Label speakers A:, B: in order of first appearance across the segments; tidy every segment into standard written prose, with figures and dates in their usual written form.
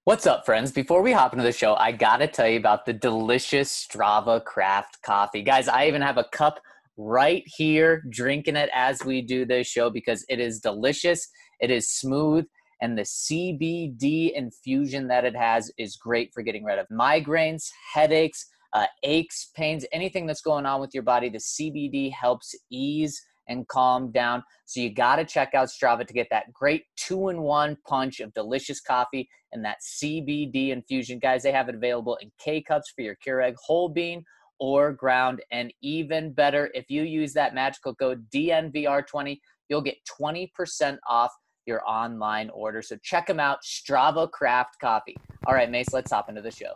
A: What's up, friends? Before we hop into the show, I gotta tell you about the delicious Strava Craft coffee. Guys, I even have a cup right here drinking it as we do this show because it is delicious, it is smooth, and the CBD infusion that it has is great for getting rid of migraines, headaches, aches, pains, anything that's going on with your body. The CBD helps ease and calm down. So you got to check out Strava to get that great 2-in-1 punch of delicious coffee and that CBD infusion. Guys, they have it available in K-Cups for your Keurig whole bean or ground. And even better, if you use that magical code DNVR20, you'll get 20% off your online order. So check them out, Strava Craft Coffee. All right, Mace, let's hop into the show.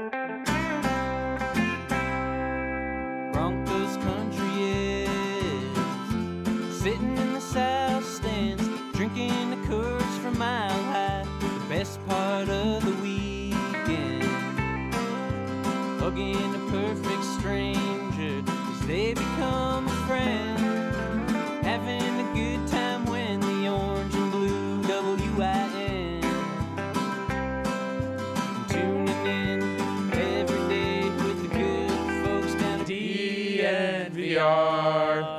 B: Broncos country is sitting in the south stands, drinking the Coors from Mile High. The best part of the weekend, hugging a perfect stranger as they become a friend, having a good time when the orange and blue WIN, tuning in every day with the good folks down at DNVR.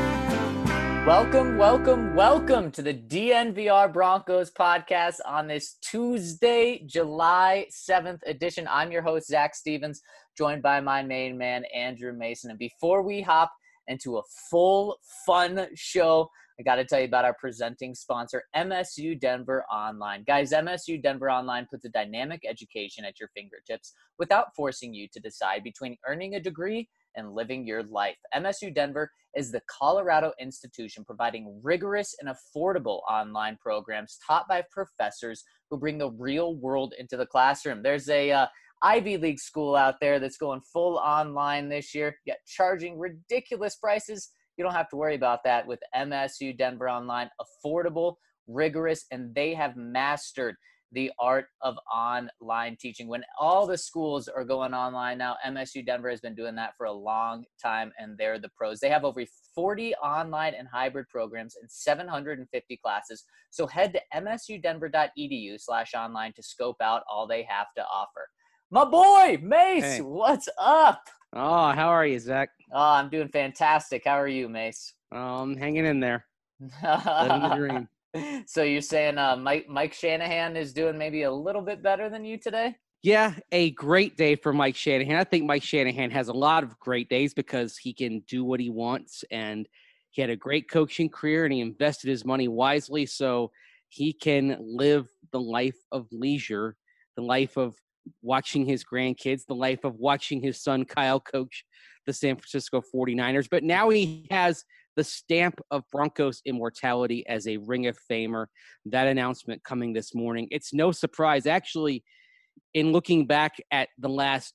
A: Welcome to the DNVR Broncos podcast on this Tuesday, July 7th edition. I'm your host, Zach Stevens, joined by my main man, Andrew Mason. And before we hop into a full, fun show, I got to tell you about our presenting sponsor, MSU Denver Online. Guys, MSU Denver Online puts a dynamic education at your fingertips without forcing you to decide between earning a degree and living your life. MSU Denver is the Colorado institution providing rigorous and affordable online programs taught by professors who bring the real world into the classroom. There's a Ivy League school out there that's going full online this year, yet charging ridiculous prices. You don't have to worry about that with MSU Denver Online. Affordable, rigorous, and they have mastered the art of online teaching. When all the schools are going online now, MSU Denver has been doing that for a long time, and they're the pros. They have over 40 online and hybrid programs and 750 classes. So head to msudenver.edu/online to scope out all they have to offer. My boy, Mace,
C: Hey.
A: What's up?
C: Oh, how are you, Zach?
A: Oh, I'm doing fantastic. How are you, Mace?
C: Hanging in there, living the dream.
A: So you're saying Mike Shanahan is doing maybe a little bit better than you today?
C: Yeah, a great day for Mike Shanahan. I think Mike Shanahan has a lot of great days because he can do what he wants, and he had a great coaching career, and he invested his money wisely so he can live the life of leisure, the life of watching his grandkids, the life of watching his son Kyle coach the San Francisco 49ers. But now he has the stamp of Broncos immortality as a Ring of Famer. That announcement coming this morning. It's no surprise. Actually, in looking back at the last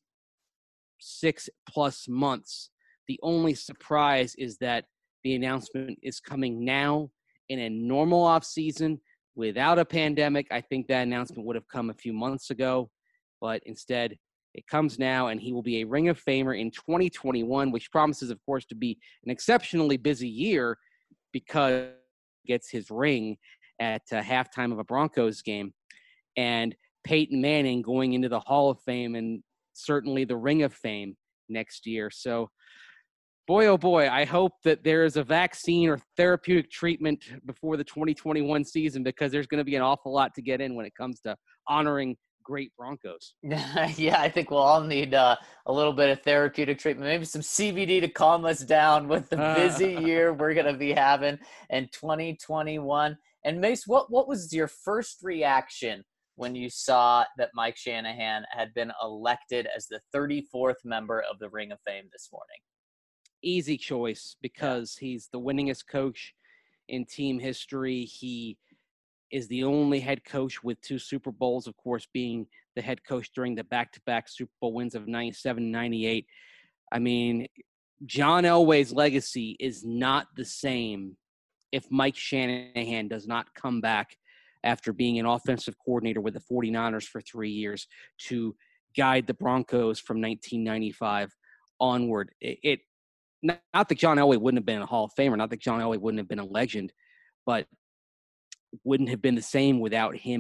C: 6+ months, the only surprise is that the announcement is coming now in a normal offseason without a pandemic. I think that announcement would have come a few months ago, but instead it comes now, and he will be a Ring of Famer in 2021, which promises, of course, to be an exceptionally busy year because he gets his ring at halftime of a Broncos game. And Peyton Manning going into the Hall of Fame and certainly the Ring of Fame next year. So, boy, oh boy, I hope that there is a vaccine or therapeutic treatment before the 2021 season because there's going to be an awful lot to get in when it comes to honoring great Broncos.
A: Yeah, I think we'll all need a little bit of therapeutic treatment, maybe some CBD to calm us down with the busy year we're going to be having in 2021. And Mace, what was your first reaction when you saw that Mike Shanahan had been elected as the 34th member of the Ring of Fame this morning?
C: Easy choice because he's the winningest coach in team history. He is the only head coach with 2 Super Bowls, of course, being the head coach during the back-to-back Super Bowl wins of 97, 98. I mean, John Elway's legacy is not the same if Mike Shanahan does not come back after being an offensive coordinator with the 49ers for 3 years to guide the Broncos from 1995 onward. Not that John Elway wouldn't have been a Hall of Famer, not that John Elway wouldn't have been a legend, but wouldn't have been the same without him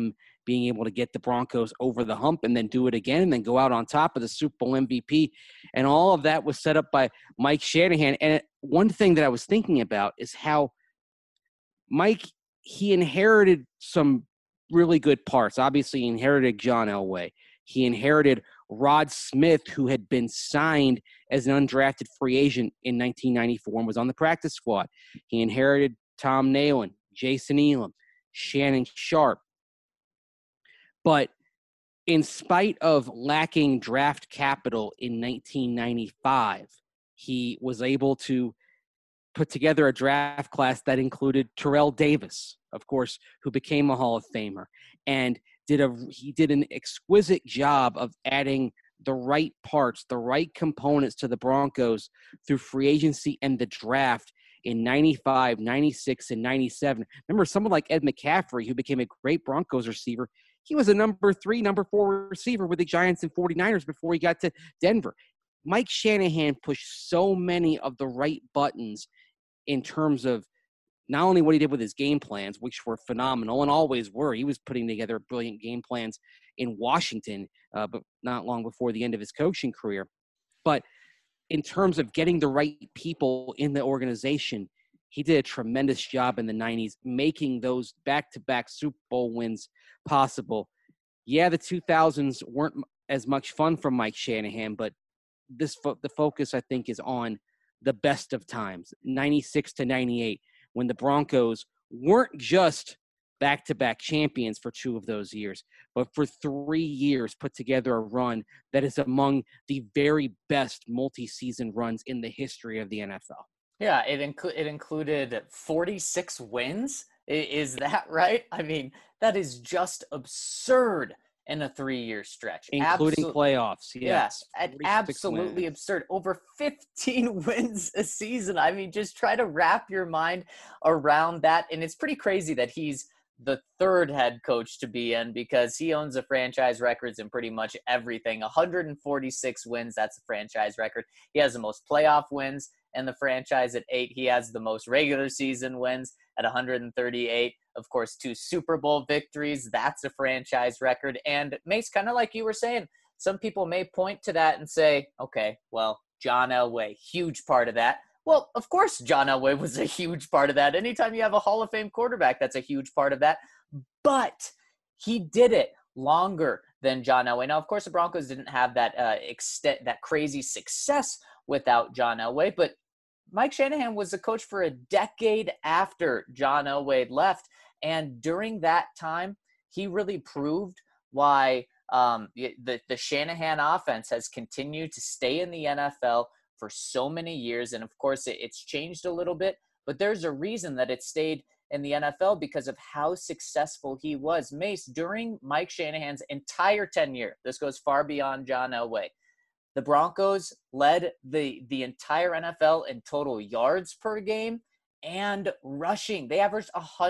C: being able to get the Broncos over the hump and then do it again and then go out on top of the Super Bowl MVP. And all of that was set up by Mike Shanahan. And one thing that I was thinking about is how Mike, he inherited some really good parts. Obviously, he inherited John Elway. He inherited Rod Smith, who had been signed as an undrafted free agent in 1994 and was on the practice squad. He inherited Tom Nalen, Jason Elam, Shannon Sharp. But in spite of lacking draft capital in 1995, he was able to put together a draft class that included Terrell Davis, of course, who became a Hall of Famer, and he did an exquisite job of adding the right parts, the right components to the Broncos through free agency and the draft in 95, 96, and 97. Remember, someone like Ed McCaffrey, who became a great Broncos receiver, he was a number 3, number 4 receiver with the Giants and 49ers before he got to Denver. Mike Shanahan pushed so many of the right buttons in terms of not only what he did with his game plans, which were phenomenal and always were. He was putting together brilliant game plans in Washington, but not long before the end of his coaching career. But in terms of getting the right people in the organization, he did a tremendous job in the 90s, making those back-to-back Super Bowl wins possible. Yeah, the 2000s weren't as much fun for Mike Shanahan, but the focus, I think, is on the best of times, 96 to 98, when the Broncos weren't just back-to-back champions for 2 of those years, but for 3 years put together a run that is among the very best multi-season runs in the history of the NFL.
A: Yeah, it included 46 wins. Is that right? I mean, that is just absurd in a 3-year stretch.
C: Including playoffs, yes.
A: Yeah, absolutely wins. Absurd. Over 15 wins a season. I mean, just try to wrap your mind around that. And it's pretty crazy that he's the 3rd head coach to be in, because he owns the franchise records in pretty much everything. 146 wins, that's a franchise record. He has the most playoff wins in the franchise at 8. He has the most regular season wins at 138. Of course, 2 Super Bowl victories. That's a franchise record. And Mace, kind of like you were saying, some people may point to that and say, okay, well, John Elway, huge part of that. Well, of course, John Elway was a huge part of that. Anytime you have a Hall of Fame quarterback, that's a huge part of that. But he did it longer than John Elway. Now, of course, the Broncos didn't have that that crazy success without John Elway, but Mike Shanahan was the coach for a decade after John Elway left. And during that time, he really proved why the Shanahan offense has continued to stay in the NFL for so many years. And of course, it's changed a little bit, but there's a reason that it stayed in the NFL because of how successful he was. Mace, during Mike Shanahan's entire tenure, this goes far beyond John Elway, the Broncos led the entire NFL in total yards per game and rushing. They averaged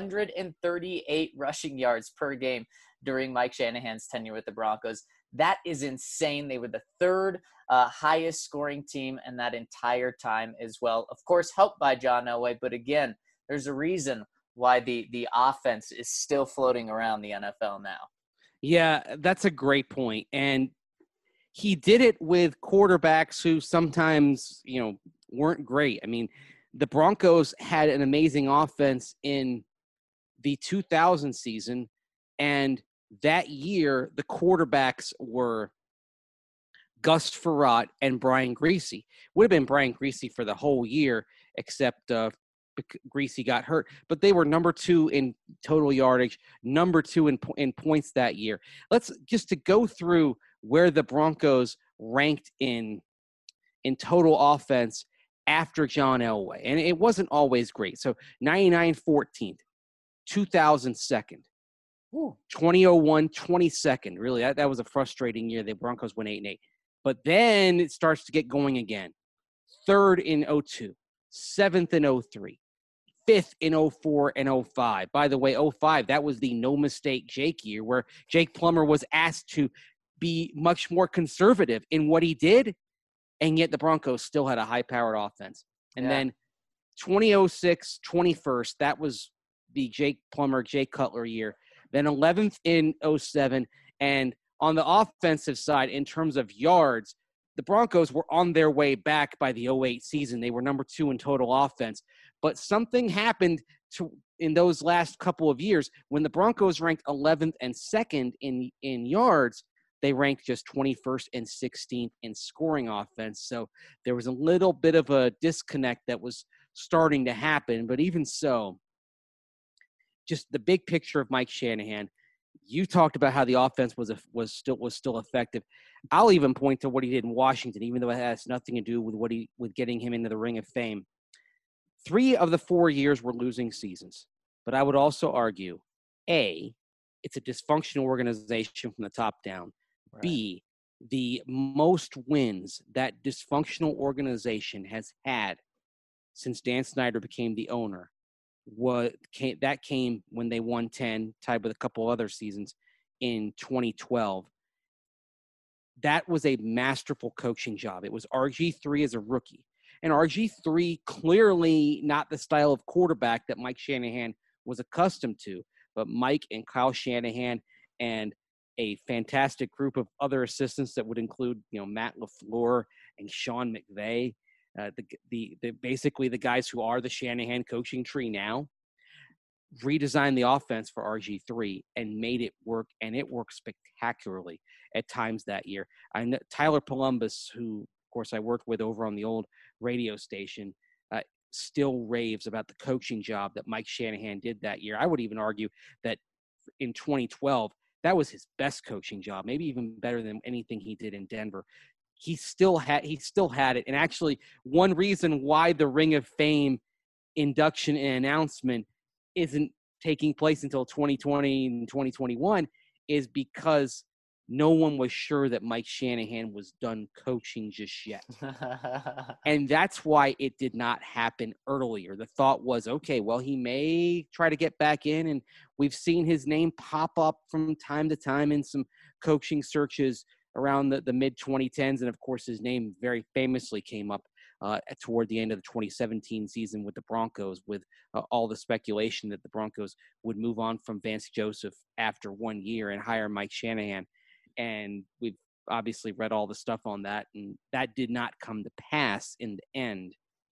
A: 138 rushing yards per game during Mike Shanahan's tenure with the Broncos. That is insane. They were the 3rd highest scoring team in that entire time as well. Of course, helped by John Elway, but again, there's a reason why the offense is still floating around the NFL now.
C: Yeah, that's a great point. And he did it with quarterbacks who sometimes, weren't great. I mean, the Broncos had an amazing offense in the 2000 season, and that year the quarterbacks were Gus Frerotte and Brian Griese. Would have been Brian Griese for the whole year, except Griese got hurt. But they were number 2 in total yardage, number 2 in points that year. Let's just to go through where the Broncos ranked in total offense after John Elway. And it wasn't always great. So 99 14th, 2000 2nd, 2001 22nd. Really, that was a frustrating year. The Broncos went 8-8. But then it starts to get going again. 3rd in 02, 7th in 03, 5th in 04 and 05. By the way, 05, that was the no mistake Jake year where Jake Plummer was asked to be much more conservative in what he did, and yet the Broncos still had a high-powered offense. And then 2006, 21st, that was the Jake Plummer, Jay Cutler year. then 11th in 07. And on the offensive side, in terms of yards, the Broncos were on their way back by the 08 season. They were number 2 in total offense. But something happened in those last couple of years when the Broncos ranked 11th and 2nd in yards. They ranked just 21st and 16th in scoring offense. So there was a little bit of a disconnect that was starting to happen. But even so, just the big picture of Mike Shanahan, you talked about how the offense was still effective. I'll even point to what he did in Washington, even though it has nothing to do with getting him into the Ring of Fame. 3 of the 4 years were losing seasons. But I would also argue, A, it's a dysfunctional organization from the top down. Right. B, the most wins that dysfunctional organization has had since Dan Snyder became the owner came when they won 10, tied with a couple other seasons in 2012. That was a masterful coaching job. It was RG3 as a rookie. And RG3 clearly not the style of quarterback that Mike Shanahan was accustomed to. But Mike and Kyle Shanahan and a fantastic group of other assistants that would include, Matt LaFleur and Sean McVay, basically the guys who are the Shanahan coaching tree now, redesigned the offense for RG3 and made it work, and it worked spectacularly at times that year. I know Tyler Columbus, who, of course, I worked with over on the old radio station, still raves about the coaching job that Mike Shanahan did that year. I would even argue that in 2012, that was his best coaching job, maybe even better than anything he did in Denver. He still had it. And actually, one reason why the Ring of Fame induction and announcement isn't taking place until 2020 and 2021 is because no one was sure that Mike Shanahan was done coaching just yet. And that's why it did not happen earlier. The thought was, okay, well, he may try to get back in, and we've seen his name pop up from time to time in some coaching searches around the mid-2010s. And, of course, his name very famously came up toward the end of the 2017 season with the Broncos, with all the speculation that the Broncos would move on from Vance Joseph after 1 year and hire Mike Shanahan. And we've obviously read all the stuff on that, and that did not come to pass in the end.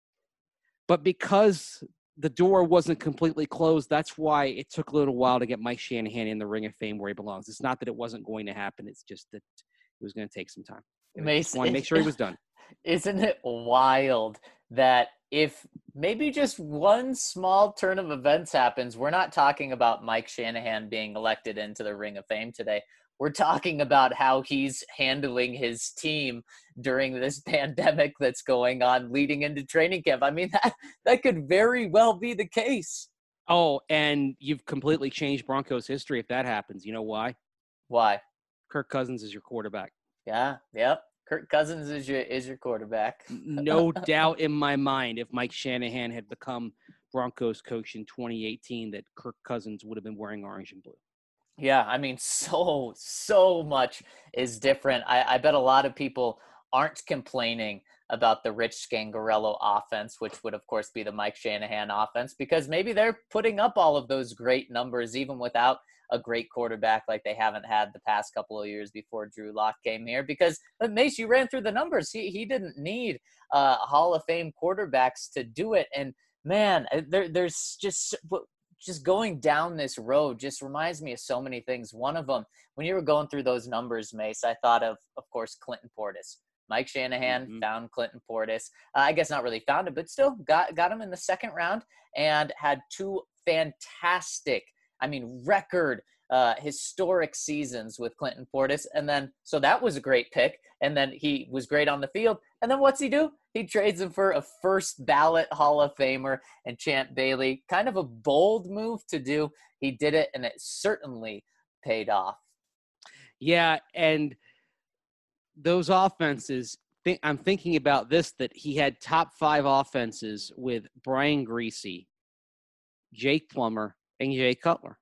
C: But because the door wasn't completely closed, that's why it took a little while to get Mike Shanahan in the Ring of Fame where he belongs. It's not that it wasn't going to happen. It's just that it was going to take some time. Mason, want to make sure he was done.
A: Isn't it wild that if maybe just one small turn of events happens, we're not talking about Mike Shanahan being elected into the Ring of Fame today. We're talking about how he's handling his team during this pandemic that's going on leading into training camp. I mean, that could very well be the case.
C: Oh, and you've completely changed Broncos history if that happens. You know why?
A: Why?
C: Kirk Cousins is your quarterback.
A: Yeah, yep. Kirk Cousins is your quarterback.
C: No doubt in my mind, if Mike Shanahan had become Broncos coach in 2018, that Kirk Cousins would have been wearing orange and blue.
A: Yeah, I mean, so much is different. I bet a lot of people aren't complaining about the Rich Scangarello offense, which would, of course, be the Mike Shanahan offense, because maybe they're putting up all of those great numbers even without a great quarterback like they haven't had the past couple of years before Drew Lock came here. Because, Mace, you ran through the numbers. He didn't need Hall of Fame quarterbacks to do it. And, man, there's just going down this road just reminds me of so many things. One of them, when you were going through those numbers, Mace, I thought of course, Clinton Portis. Mike Shanahan found Clinton Portis. I guess not really found him, but still got him in the second round and had 2 fantastic, record historic seasons with Clinton Portis. And then, so that was a great pick. And then he was great on the field. And then what's he do? He trades him for a first ballot Hall of Famer and Champ Bailey. Kind of a bold move to do. He did it, and it certainly paid off.
C: Yeah, and those offenses, I'm thinking about this, that he had top 5 offenses with Brian Griese, Jake Plummer, and Jay Cutler.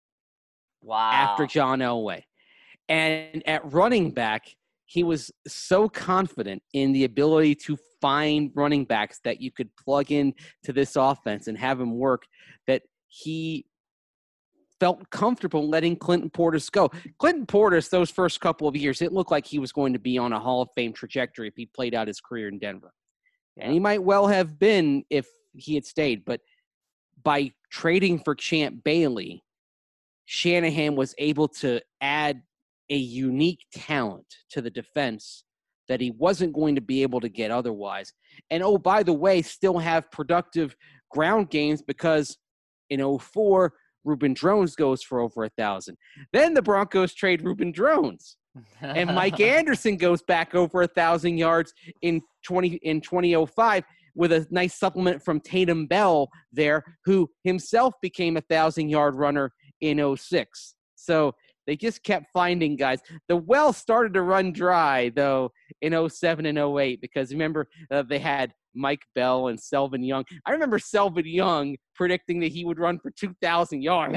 A: Wow.
C: After John Elway. And at running back, he was so confident in the ability to find running backs that you could plug in to this offense and have them work, that he felt comfortable letting Clinton Portis go. Clinton Portis, those first couple of years, it looked like he was going to be on a Hall of Fame trajectory if he played out his career in Denver. Yeah. And he might well have been if he had stayed. But by trading for Champ Bailey, Shanahan was able to add a unique talent to the defense that he wasn't going to be able to get otherwise. And, oh, by the way, still have productive ground games because in 2004, Reuben Drones goes for over 1,000. Then the Broncos trade Reuben Drones. And Mike Anderson goes back over 1,000 yards in 2005 with a nice supplement from Tatum Bell there, who himself became a 1,000-yard runner in 2006. So they just kept finding guys. The well started to run dry, though, in 2007 and 2008 because, remember, they had Mike Bell and Selvin Young. I remember Selvin Young predicting that he would run for 2,000 yards.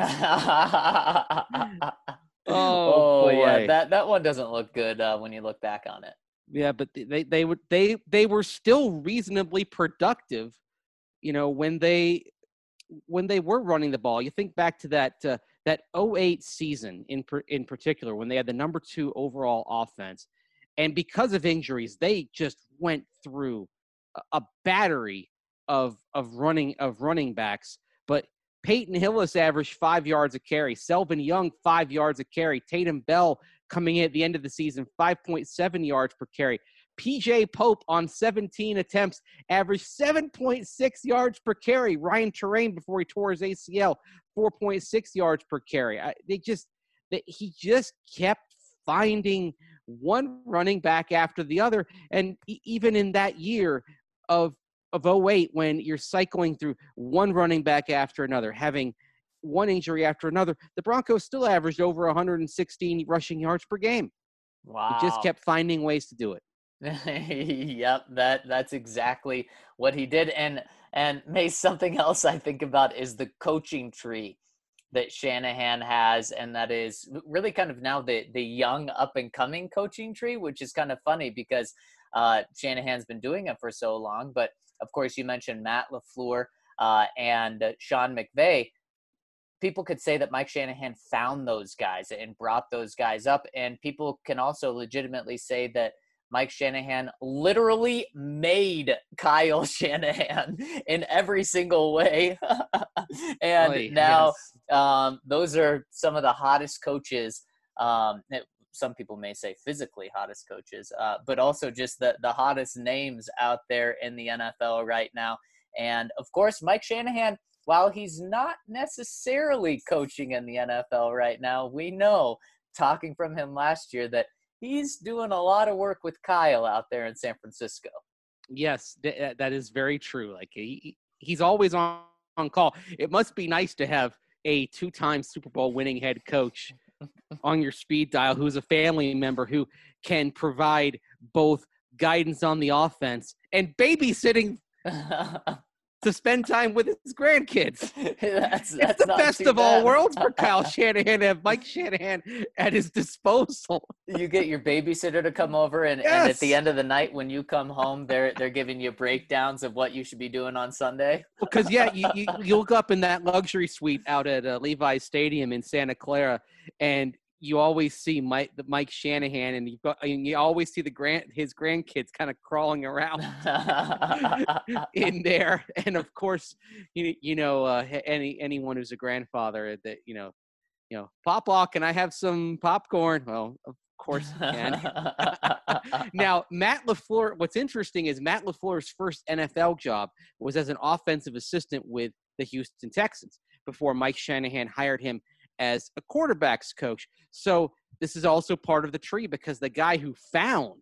A: Oh yeah, that one doesn't look good when you look back on it.
C: Yeah, but they were still reasonably productive, when they were running the ball. You think back to that 2008 season in particular when they had the number 2 overall offense, and because of injuries, they just went through a battery of running backs. But Peyton Hillis averaged 5 yards a carry. Selvin Young, 5 yards a carry. Tatum Bell coming in at the end of the season, 5.7 yards per carry. PJ Pope on 17 attempts averaged 7.6 yards per carry. Ryan Terrain, before he tore his ACL, 4.6 yards per carry. He just kept finding one running back after the other. And even in that year of 2008, when you're cycling through one running back after another, having one injury after another, the Broncos still averaged over 116 rushing yards per game.
A: Wow.
C: He just kept finding ways to do it.
A: Yep, that's exactly what he did. And Mace, something else I think about is the coaching tree that Shanahan has, and that is really kind of now the young up-and-coming coaching tree, which is kind of funny because Shanahan's been doing it for so long. But, of course, you mentioned Matt LaFleur and Sean McVay. People could say that Mike Shanahan found those guys and brought those guys up, and people can also legitimately say that Mike Shanahan literally made Kyle Shanahan in every single way. And now those are some of the hottest coaches. Some people may say physically hottest coaches, but also just the hottest names out there in the NFL right now. And, of course, Mike Shanahan, while he's not necessarily coaching in the NFL right now, we know, talking from him last year, that he's doing a lot of work with Kyle out there in San Francisco.
C: Yes, that is very true. Like he's always on call. It must be nice to have a 2-time Super Bowl winning head coach on your speed dial who's a family member who can provide both guidance on the offense and babysitting to spend time with his grandkids. That's the best of all worlds for Kyle Shanahan to have Mike Shanahan at his disposal.
A: You get your babysitter to come over, and at the end of the night when you come home, they're giving you breakdowns of what you should be doing on Sunday.
C: Because, you look up in that luxury suite out at Levi's Stadium in Santa Clara, and you always see Mike Shanahan, and you always see his grandkids kind of crawling around in there. And of course, anyone who's a grandfather that Papa, can I have some popcorn? Well, of course you can. Now, Matt LaFleur. What's interesting is Matt LaFleur's first NFL job was as an offensive assistant with the Houston Texans before Mike Shanahan hired him as a quarterback's coach. So this is also part of the tree because the guy who found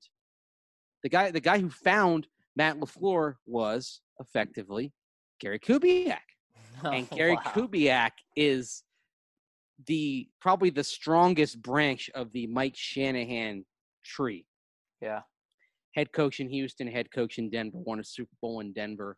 C: Matt LaFleur was effectively Gary Kubiak. And Gary Kubiak is probably the strongest branch of the Mike Shanahan tree.
A: Yeah.
C: Head coach in Houston, head coach in Denver, won a Super Bowl in Denver.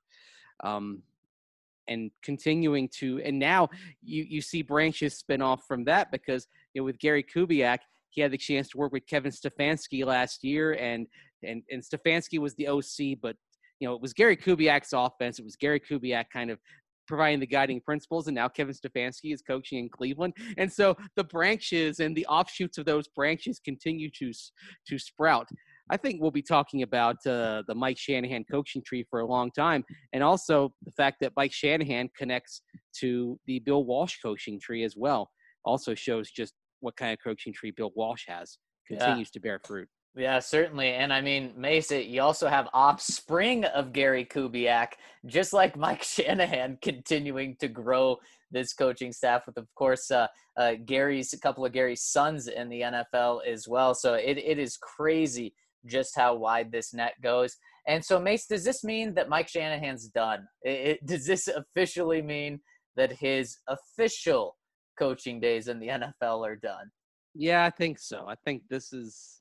C: And continuing to, and now you see branches spin off from that because with Gary Kubiak, he had the chance to work with Kevin Stefanski last year, and Stefanski was the OC, but it was Gary Kubiak's offense. It was Gary Kubiak kind of providing the guiding principles, and now Kevin Stefanski is coaching in Cleveland. And so the branches and the offshoots of those branches continue to sprout. I think we'll be talking about the Mike Shanahan coaching tree for a long time, and also the fact that Mike Shanahan connects to the Bill Walsh coaching tree as well. Also shows just what kind of coaching tree Bill Walsh has. Continues to bear fruit.
A: Yeah, certainly. And I mean, Mason, you also have offspring of Gary Kubiak, just like Mike Shanahan, continuing to grow this coaching staff with, of course, a couple of Gary's sons in the NFL as well. So it is crazy just how wide this net goes. And so, Mace, does this mean that Mike Shanahan's done? Does this officially mean that his official coaching days in the NFL are done?
C: Yeah, I think so. I think this is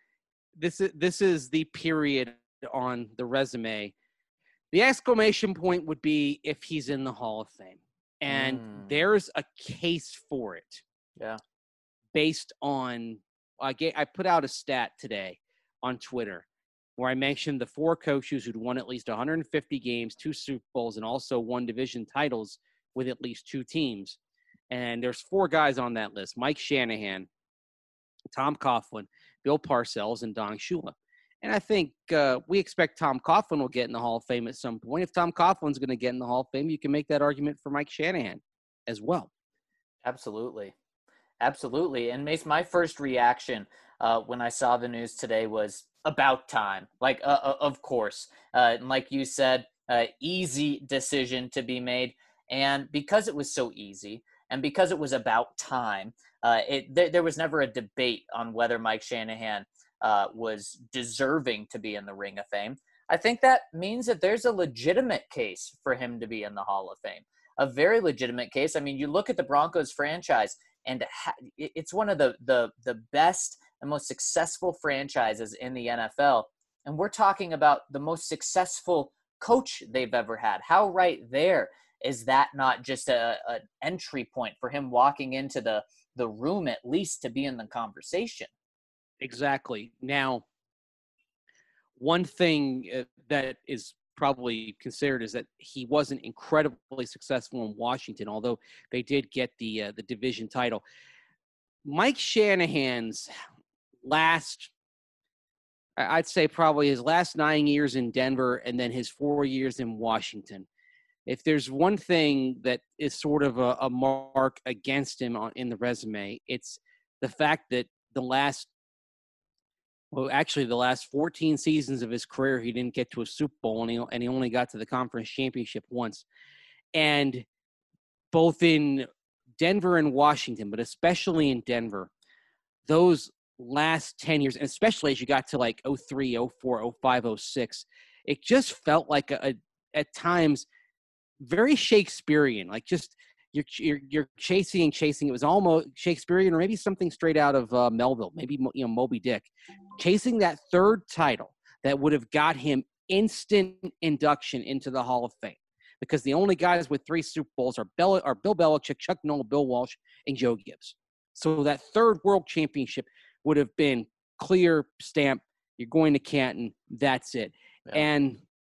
C: the period on the resume. The exclamation point would be if he's in the Hall of Fame. And there's a case for it.
A: Yeah.
C: Based on, I put out a stat today on Twitter where I mentioned the 4 coaches who'd won at least 150 games, 2 Super Bowls, and also won division titles with at least 2 teams. And there's 4 guys on that list: Mike Shanahan, Tom Coughlin, Bill Parcells, and Don Shula. And I think we expect Tom Coughlin will get in the Hall of Fame at some point. If Tom Coughlin's going to get in the Hall of Fame, you can make that argument for Mike Shanahan as well.
A: Absolutely. Absolutely. And Mace, my first reaction when I saw the news today was about time. Like, of course. Like you said, easy decision to be made. And because it was so easy and because it was about time, there was never a debate on whether Mike Shanahan was deserving to be in the Ring of Fame. I think that means that there's a legitimate case for him to be in the Hall of Fame, a very legitimate case. I mean, you look at the Broncos franchise, and it's one of the best and most successful franchises in the NFL. And we're talking about the most successful coach they've ever had. How right there is that not just an entry point for him walking into the room at least to be in the conversation?
C: Exactly. Now, one thing that is probably considered is that he wasn't incredibly successful in Washington, although they did get the division title. Mike Shanahan's I'd say probably his last 9 years in Denver and then his 4 years in Washington. If there's one thing that is sort of a mark against him in the resume, it's the fact that the last 14 seasons of his career, he didn't get to a Super Bowl, and he only got to the conference championship once. And both in Denver and Washington, but especially in Denver, those last 10 years, and especially as you got to like 03, 04, 05, 06, it just felt like at times very Shakespearean, like just you're chasing. It was almost Shakespearean, or maybe something straight out of Melville, maybe Moby Dick, chasing that third title that would have got him instant induction into the Hall of Fame. Because the only guys with 3 Super Bowls are Bill Belichick, Chuck Noll, Bill Walsh, and Joe Gibbs. So that third world championship would have been clear stamp. You're going to Canton. That's it. Yeah. And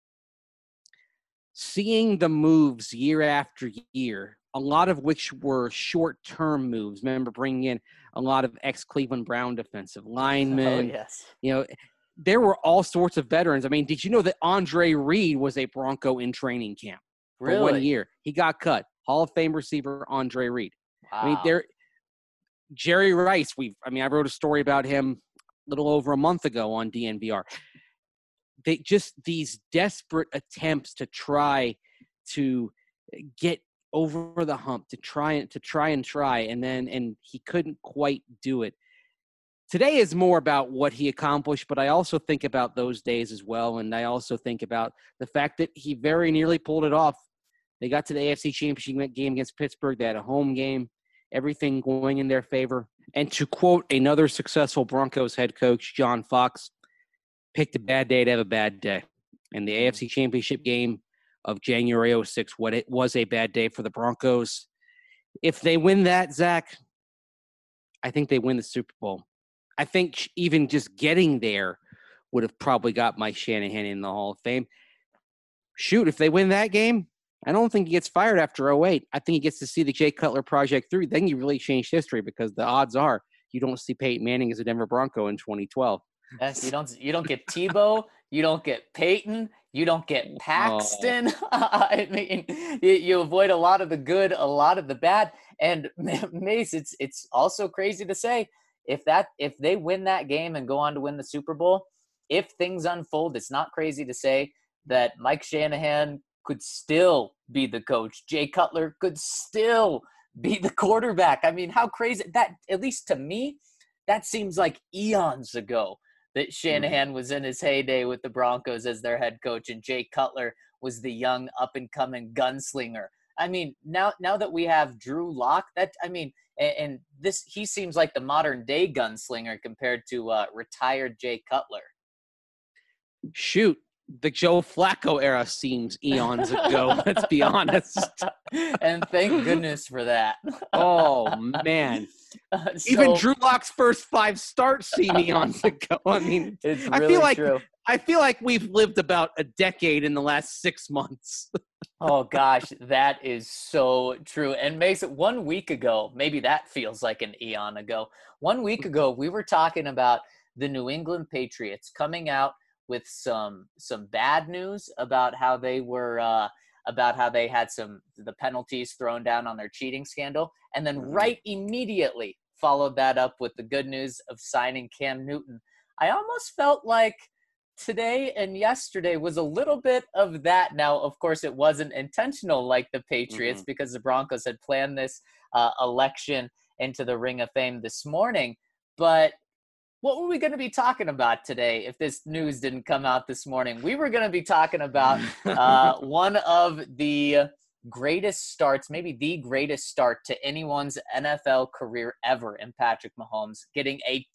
C: seeing the moves year after year, a lot of which were short-term moves. Remember bringing in a lot of ex-Cleveland Brown defensive linemen.
A: Oh, yes.
C: There were all sorts of veterans. I mean, did you know that Andre Reed was a Bronco in training camp for 1 year? He got cut. Hall of Fame receiver Andre Reed. Wow. I mean, Jerry Rice. I wrote a story about him a little over a month ago on DNVR. These desperate attempts to try to get over the hump, to try, and he couldn't quite do it. Today is more about what he accomplished, but I also think about those days as well, and I also think about the fact that he very nearly pulled it off. They got to the AFC Championship game against Pittsburgh. They had a home game, everything going in their favor. And to quote another successful Broncos head coach, John Fox, picked a bad day to have a bad day. And the AFC Championship game of January 06, it was a bad day for the Broncos. If they win that, Zach, I think they win the Super Bowl. I think even just getting there would have probably got Mike Shanahan in the Hall of Fame. Shoot, if they win that game, I don't think he gets fired after '08. I think he gets to see the Jay Cutler project through. Then you really change history because the odds are you don't see Peyton Manning as a Denver Bronco in 2012.
A: Yes, you don't get Tebow, you don't get Peyton, you don't get Paxton. I mean, you avoid a lot of the good, a lot of the bad. And Mace, it's also crazy to say if they win that game and go on to win the Super Bowl, if things unfold, it's not crazy to say that Mike Shanahan could still be the coach. Jay Cutler could still be the quarterback. I mean, how crazy that, at least to me, that seems like eons ago that Shanahan was in his heyday with the Broncos as their head coach, and Jay Cutler was the young up-and-coming gunslinger. I mean, now that we have Drew Lock, and this, he seems like the modern-day gunslinger compared to retired Jay Cutler.
C: Shoot, the Joe Flacco era seems eons ago. Let's be honest.
A: And thank goodness for that.
C: Oh, man. Even Drew Lock's first 5 starts seem eons ago. I mean,
A: it's really true.
C: I feel like we've lived about a decade in the last 6 months.
A: Oh, gosh, that is so true. And makes it 1 week ago, maybe that feels like an eon ago. 1 week ago, we were talking about the New England Patriots coming out with some bad news about how they were about how they had the penalties thrown down on their cheating scandal, and then right immediately followed that up with the good news of signing Cam Newton. I almost felt like today and yesterday was a little bit of that. Now, of course, it wasn't intentional like the Patriots because the Broncos had planned this election into the Ring of Fame this morning, but what were we going to be talking about today if this news didn't come out this morning? We were going to be talking about one of the greatest starts, maybe the greatest start to anyone's NFL career ever in Patrick Mahomes, getting a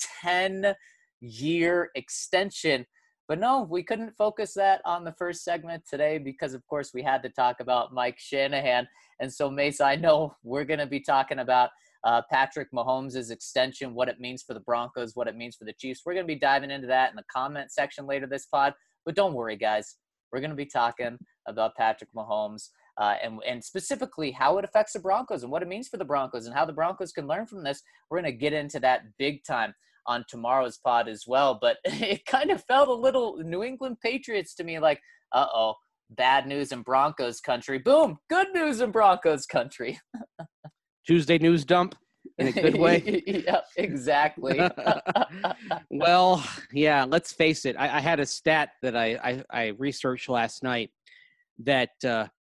A: 10-year extension. But no, we couldn't focus that on the first segment today because, of course, we had to talk about Mike Shanahan. And so, Mace, I know we're going to be talking about Patrick Mahomes' extension, what it means for the Broncos, what it means for the Chiefs. We're going to be diving into that in the comment section later this pod. But don't worry, guys. We're going to be talking about Patrick Mahomes and specifically how it affects the Broncos and what it means for the Broncos and how the Broncos can learn from this. We're going to get into that big time on tomorrow's pod as well. But it kind of felt a little New England Patriots to me like, uh-oh, bad news in Broncos country. Boom, good news in Broncos country.
C: Tuesday news dump in a good way.
A: Yep, exactly.
C: Well, yeah, let's face it. I had a stat that I researched last night that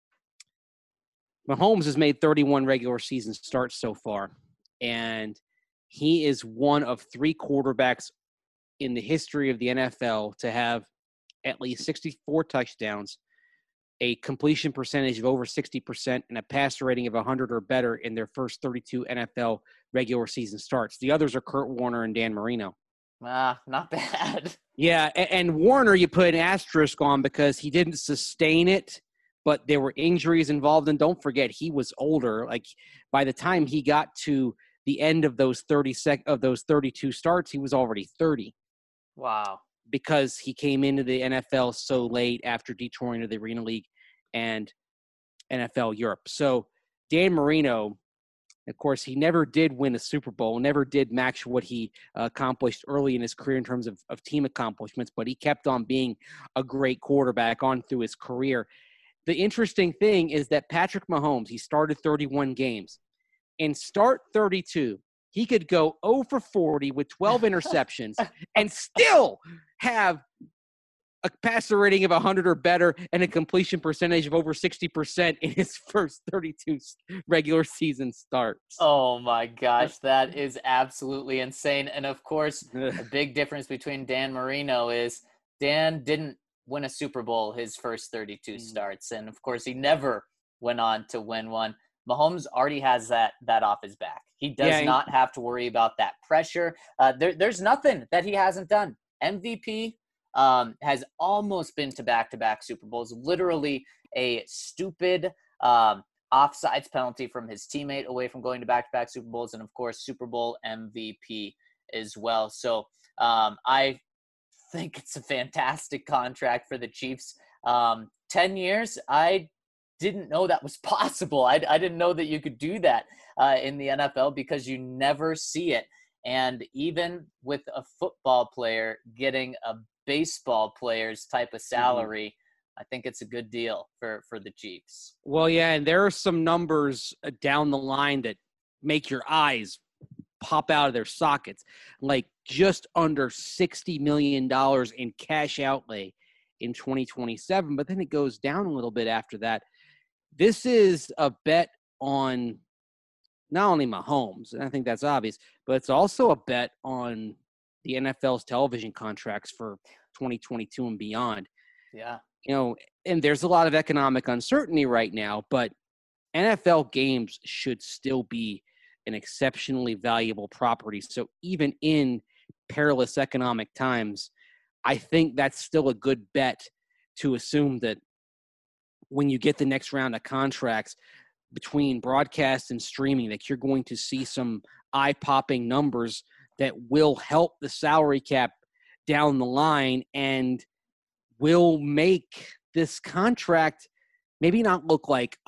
C: Mahomes has made 31 regular season starts so far, and he is one of 3 quarterbacks in the history of the NFL to have at least 64 touchdowns, a completion percentage of over 60%, and a passer rating of 100 or better in their first 32 NFL regular season starts. The others are Kurt Warner and Dan Marino.
A: Not bad.
C: Yeah, and Warner you put an asterisk on because he didn't sustain it, but there were injuries involved. And don't forget, he was older. Like, by the time he got to the end of those 32 starts, he was already 30.
A: Wow.
C: Because he came into the NFL so late after detouring to the Arena League and NFL Europe. So Dan Marino, of course, he never did win a Super Bowl, never did match what he accomplished early in his career in terms of team accomplishments, but he kept on being a great quarterback on through his career. The interesting thing is that Patrick Mahomes, he started 31 games. In start 32, he could go 0 for 40 with 12 interceptions and still have a passer rating of 100 or better and a completion percentage of over 60% in his first 32 regular season starts.
A: Oh, my gosh. That is absolutely insane. And, of course, a big difference between Dan Marino is Dan didn't win a Super Bowl his first 32 starts. And, of course, he never went on to win one. Mahomes already has that off his back. He does not have to worry about that pressure. There's nothing that he hasn't done. MVP has almost been to back-to-back Super Bowls. Literally a stupid offsides penalty from his teammate away from going to back-to-back Super Bowls, and, of course, Super Bowl MVP as well. So I think it's a fantastic contract for the Chiefs. 10 years, I didn't know that was possible. I didn't know that you could do that in the NFL because you never see it. And even with a football player getting a baseball player's type of salary, I think it's a good deal for the Chiefs.
C: Well, yeah, and there are some numbers down the line that make your eyes pop out of their sockets, like just under $60 million in cash outlay in 2027, but then it goes down a little bit after that. This is a bet on not only Mahomes, and I think that's obvious, but it's also a bet on the NFL's television contracts for 2022 and beyond.
A: Yeah.
C: And there's a lot of economic uncertainty right now, but NFL games should still be an exceptionally valuable property. So even in perilous economic times, I think that's still a good bet to assume that when you get the next round of contracts between broadcast and streaming, that you're going to see some eye-popping numbers that will help the salary cap down the line and will make this contract maybe not look like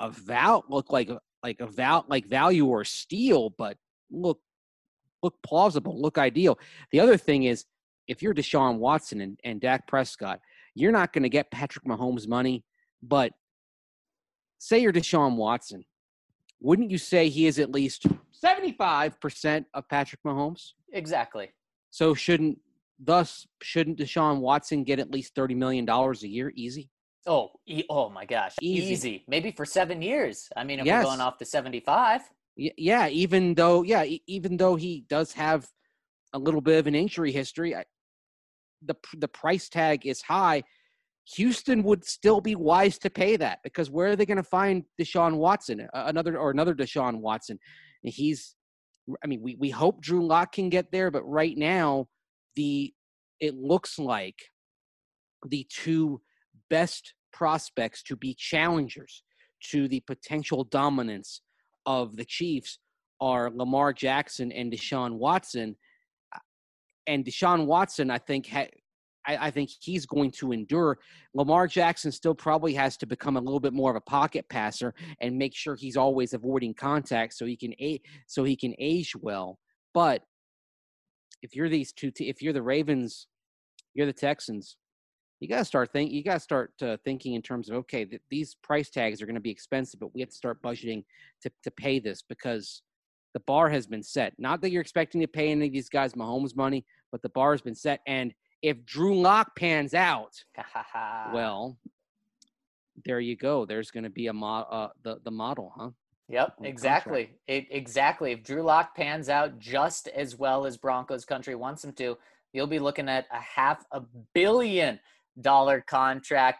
C: value or steal, but look plausible, look ideal. The other thing is, if you're Deshaun Watson and Dak Prescott, you're not going to get Patrick Mahomes money, but say you're Deshaun Watson, wouldn't you say he is at least 75% of Patrick Mahomes?
A: Exactly.
C: So shouldn't Deshaun Watson get at least $30 million a year? Easy.
A: Oh my gosh. Easy. Maybe for 7 years. I mean, if
C: Yes.
A: we're going off to 75.
C: Yeah. Even though he does have a little bit of an injury history, the price tag is high. Houston would still be wise to pay that, because where are they going to find Deshaun Watson, another Deshaun Watson? We hope Drew Lock can get there, but right now it looks like the two best prospects to be challengers to the potential dominance of the Chiefs are Lamar Jackson and Deshaun Watson. And Deshaun Watson, I think he's going to endure. Lamar Jackson still probably has to become a little bit more of a pocket passer and make sure he's always avoiding contact so he can age well. But if you're if you're the Ravens, you're the Texans, you got to start thinking in terms of, okay, these price tags are going to be expensive, but we have to start budgeting to pay this, because the bar has been set. Not that you're expecting to pay any of these guys Mahomes money, but the bar has been set. And if Drew Lock pans out, well, there you go. There's going to be the model, huh?
A: Yep, exactly. Exactly. If Drew Lock pans out just as well as Broncos country wants him to, you'll be looking at a $500 million contract.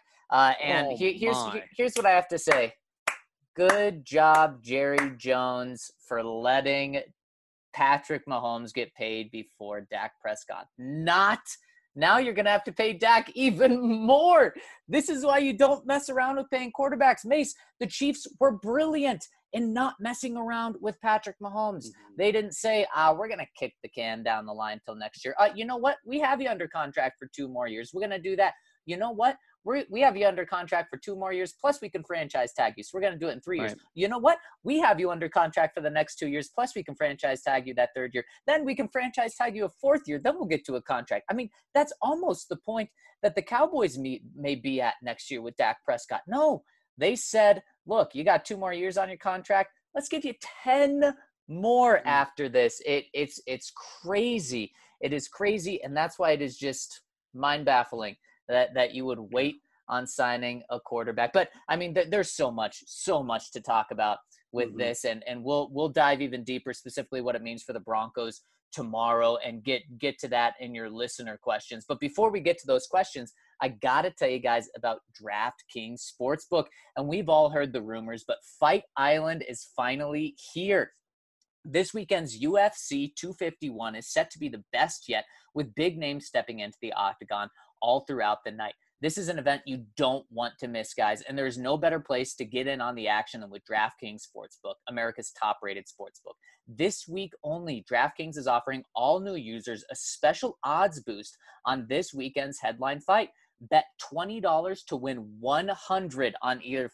A: Here's what I have to say. Good job, Jerry Jones, for letting Patrick Mahomes get paid before Dak Prescott. Now you're going to have to pay Dak even more. This is why you don't mess around with paying quarterbacks. Mace, the Chiefs were brilliant in not messing around with Patrick Mahomes. Mm-hmm. They didn't say, we're going to kick the can down the line till next year. You know what? We have you under contract for 2 more years. We're going to do that. You know what? We have you under contract for 2 more years, plus we can franchise tag you. So we're going to do it in 3 years. Right. You know what? We have you under contract for the next 2 years, plus we can franchise tag you that 3rd year. Then we can franchise tag you a 4th year. Then we'll get to a contract. I mean, that's almost the point that the Cowboys may be at next year with Dak Prescott. No, they said, look, you got 2 more years on your contract. Let's give you 10 more after this. It's crazy. It is crazy, and that's why it is just mind-baffling that you would wait on signing a quarterback. But I mean, there's so much to talk about with this, and we'll dive even deeper, specifically what it means for the Broncos tomorrow, and get to that in your listener questions. But before we get to those questions, I gotta tell you guys about DraftKings Sportsbook. And we've all heard the rumors, but Fight Island is finally here. This weekend's UFC 251 is set to be the best yet, with big names stepping into the octagon all throughout the night. This is an event you don't want to miss, guys, and there's no better place to get in on the action than with DraftKings Sportsbook, America's top-rated sportsbook. This week only, DraftKings is offering all new users a special odds boost on this weekend's headline fight. Bet $20 to win $100 on either fighter.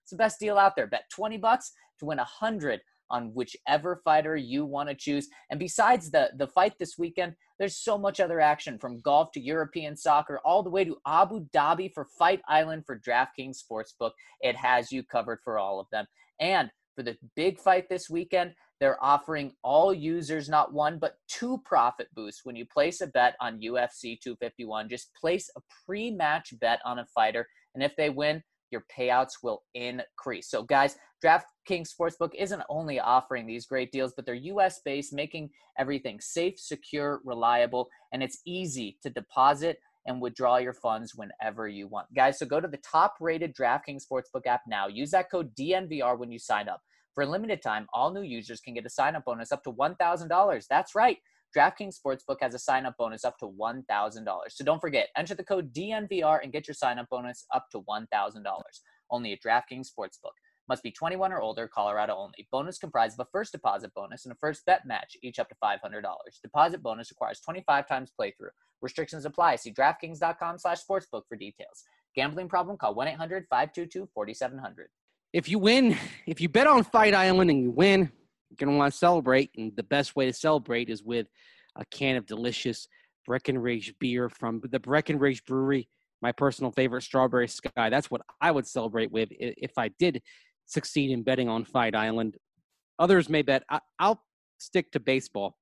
A: It's the best deal out there. Bet $20 to win $100 on whichever fighter you want to choose. And besides the fight this weekend, there's so much other action, from golf to European soccer, all the way to Abu Dhabi for Fight Island for DraftKings Sportsbook. It has you covered for all of them. And for the big fight this weekend, they're offering all users not one, but 2 profit boosts when you place a bet on UFC 251. Just place a pre-match bet on a fighter, and if they win, your payouts will increase. So guys, DraftKings Sportsbook isn't only offering these great deals, but they're US-based, making everything safe, secure, reliable, and it's easy to deposit and withdraw your funds whenever you want. Guys, so go to the top-rated DraftKings Sportsbook app now. Use that code DNVR when you sign up. For a limited time, all new users can get a sign-up bonus up to $1,000. That's right. DraftKings Sportsbook has a sign-up bonus up to $1,000. So don't forget, enter the code DNVR and get your sign-up bonus up to $1,000. Only at DraftKings Sportsbook. Must be 21 or older, Colorado only. Bonus comprised of a first deposit bonus and a first bet match, each up to $500. Deposit bonus requires 25 times playthrough. Restrictions apply. See DraftKings.com/sportsbook for details. Gambling problem? Call 1-800-522-4700.
C: If you win, if you bet on Fight Island and you win, you're going to want to celebrate. And the best way to celebrate is with a can of delicious Breckenridge beer from the Breckenridge Brewery, my personal favorite, Strawberry Sky. That's what I would celebrate with if I did succeed in betting on Fight Island. Others may bet. I'll stick to baseball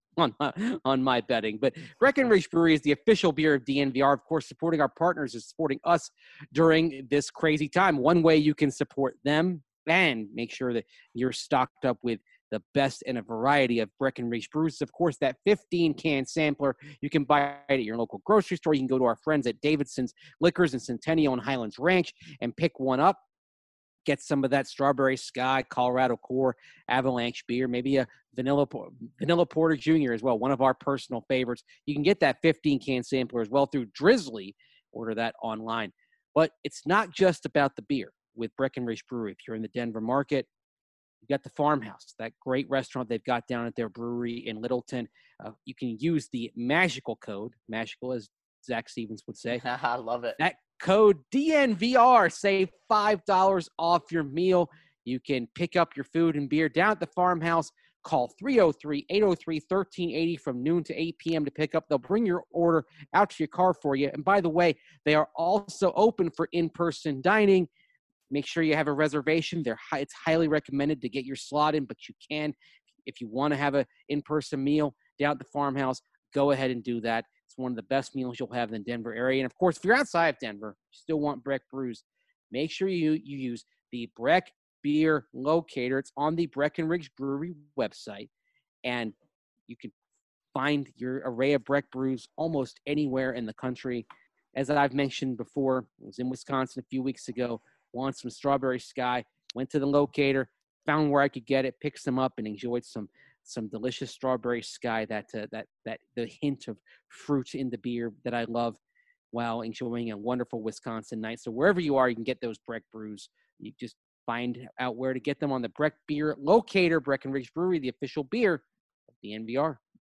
C: on my betting. But Breckenridge Brewery is the official beer of DNVR. Of course, supporting our partners is supporting us during this crazy time. One way you can support them and make sure that you're stocked up with the best in a variety of Breckenridge brews. Of course, that 15-can sampler you can buy at your local grocery store. You can go to our friends at Davidson's Liquors in Centennial and Highlands Ranch and pick one up. Get some of that Strawberry Sky, Colorado Core, Avalanche beer, maybe a Vanilla Porter Jr. as well, one of our personal favorites. You can get that 15-can sampler as well through Drizzly. Order that online. But it's not just about the beer with Breckenridge Brewery. If you're in the Denver market, you got the Farmhouse, that great restaurant they've got down at their brewery in Littleton. You can use the magical code, magical as Zach Stevens would say.
A: I love it.
C: That code DNVR, save $5 off your meal. You can pick up your food and beer down at the Farmhouse. Call 303-803-1380 from noon to 8 p.m. to pick up. They'll bring your order out to your car for you. And by the way, they are also open for in-person dining. Make sure you have a reservation. It's highly recommended to get your slot in, but you can, if you want to have an in-person meal down at the Farmhouse, go ahead and do that. It's one of the best meals you'll have in the Denver area. And, of course, if you're outside of Denver, you still want Breck Brews, make sure you use the Breck Beer Locator. It's on the Breckenridge Brewery website, and you can find your array of Breck Brews almost anywhere in the country. As I've mentioned before, I was in Wisconsin a few weeks ago, wanted some Strawberry Sky, went to the locator, found where I could get it, picked some up, and enjoyed some delicious Strawberry Sky, that the hint of fruit in the beer that I love while enjoying a wonderful Wisconsin night. So wherever you are, you can get those Breck Brews. You just find out where to get them on the Breck Beer Locator, Breckenridge Brewery, the official beer of the NVR.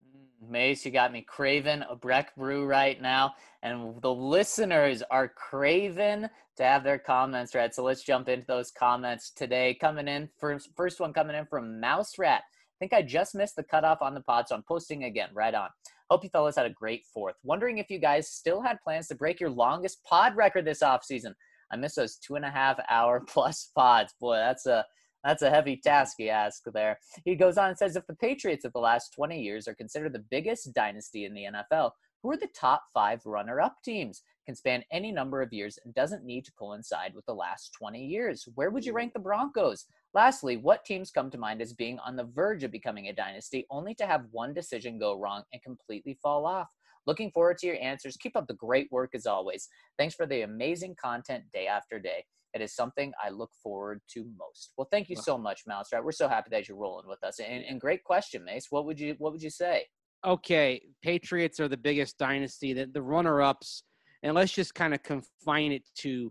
A: Mace, you got me craving a Breck Brew right now, and the listeners are craving to have their comments read. So let's jump into those comments today. Coming in, first one coming in from Mouse Rat. I think I just missed the cutoff on the pod, so I'm posting again. Right on. Hope you fellas had a great 4th. Wondering if you guys still had plans to break your longest pod record this offseason. I miss those 2.5-hour plus pods. Boy, that's a heavy task, he asks there. He goes on and says, if the Patriots of the last 20 years are considered the biggest dynasty in the NFL, who are the top 5 runner-up teams? Can span any number of years and doesn't need to coincide with the last 20 years. Where would you rank the Broncos? Lastly, what teams come to mind as being on the verge of becoming a dynasty, only to have one decision go wrong and completely fall off? Looking forward to your answers. Keep up the great work as always. Thanks for the amazing content day after day. It is something I look forward to most. Well, thank you so much, Mouse. Right, we're so happy that you're rolling with us. And great question, Mace. What would you say? Okay,
C: Patriots are the biggest dynasty. The runner-ups, and let's just kind of confine it to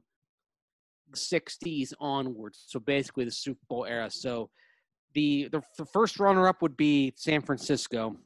C: the 60s onwards. So basically the Super Bowl era. So the first runner-up would be San Francisco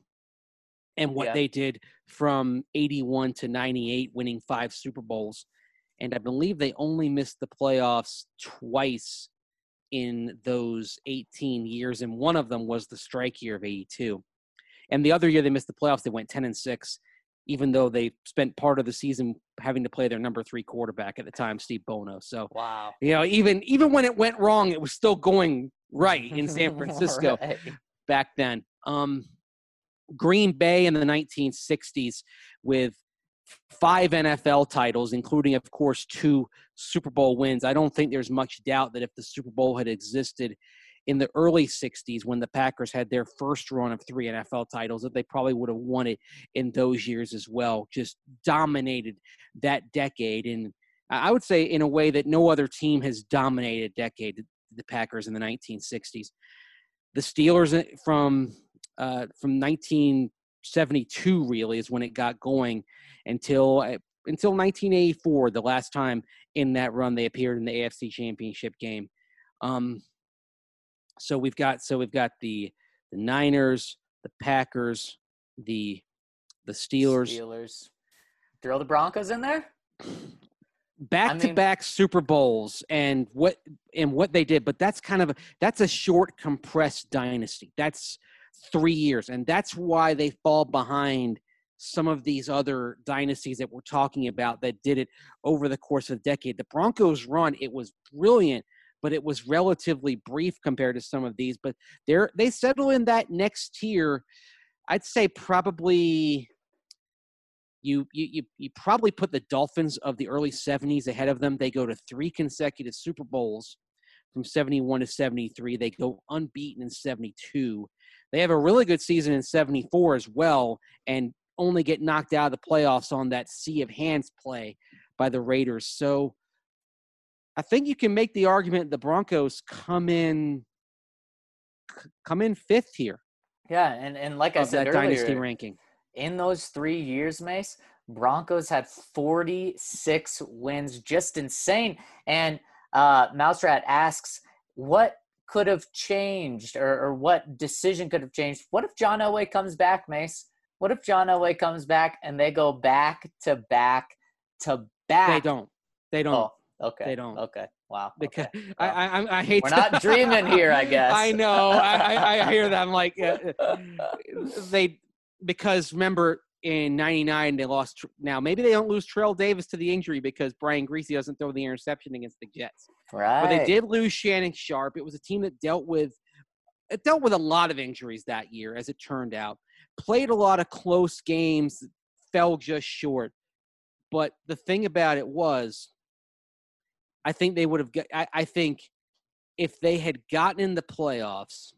C: and what they did from 81 to 98, winning 5 Super Bowls. And I believe they only missed the playoffs twice in those 18 years, and one of them was the strike year of 82. And the other year they missed the playoffs, they went 10-6, even though they spent part of the season having to play their number 3 quarterback at the time, Steve Bono. So,
A: Wow.
C: Even when it went wrong, it was still going right in San Francisco
A: Right.
C: back then. Green Bay in the 1960s with 5 NFL titles, including, of course, 2 Super Bowl wins. I don't think there's much doubt that if the Super Bowl had existed in the early 60s when the Packers had their first run of 3 NFL titles, that they probably would have won it in those years as well. Just dominated that decade. And I would say in a way that no other team has dominated a decade, the Packers in the 1960s. The Steelers from 1972 really is when it got going until 1984, the last time in that run they appeared in the AFC Championship game. So we've got the Niners, the Packers, the Steelers.
A: Throw the Broncos in there?
C: Back-to-back Super Bowls and what they did, but that's a short, compressed dynasty. That's 3 years, and that's why they fall behind some of these other dynasties that we're talking about that did it over the course of a decade. The Broncos run, it was brilliant, but it was relatively brief compared to some of these. But they settle in that next tier. I'd say probably you probably put the Dolphins of the early 70s ahead of them. They go to 3 consecutive Super Bowls from 71 to 73. They go unbeaten in 72. They have a really good season in 74 as well, and only get knocked out of the playoffs on that sea of hands play by the Raiders. So I think you can make the argument the Broncos come in 5th here.
A: Yeah, and like I said
C: that
A: earlier,
C: dynasty ranking.
A: In those 3 years, Mace, Broncos had 46 wins, just insane. And Mouserat asks, what could have changed or what decision could have changed? What if John Elway comes back, Mace? What if John Elway comes back and they go back to back to back?
C: They don't.
A: Oh, okay.
C: They don't.
A: Okay. Wow.
C: Because
A: okay.
C: I hate.
A: We're not dreaming here, I guess.
C: I know. I hear that. I'm like, because remember in '99 they lost. Now maybe they don't lose Terrell Davis to the injury because Brian Griese doesn't throw the interception against the Jets.
A: Right.
C: But they did lose Shannon Sharp. It was a team that dealt with a lot of injuries that year, as it turned out. Played a lot of close games, fell just short. But the thing about it was, I think they would have. I think if they had gotten in the playoffs,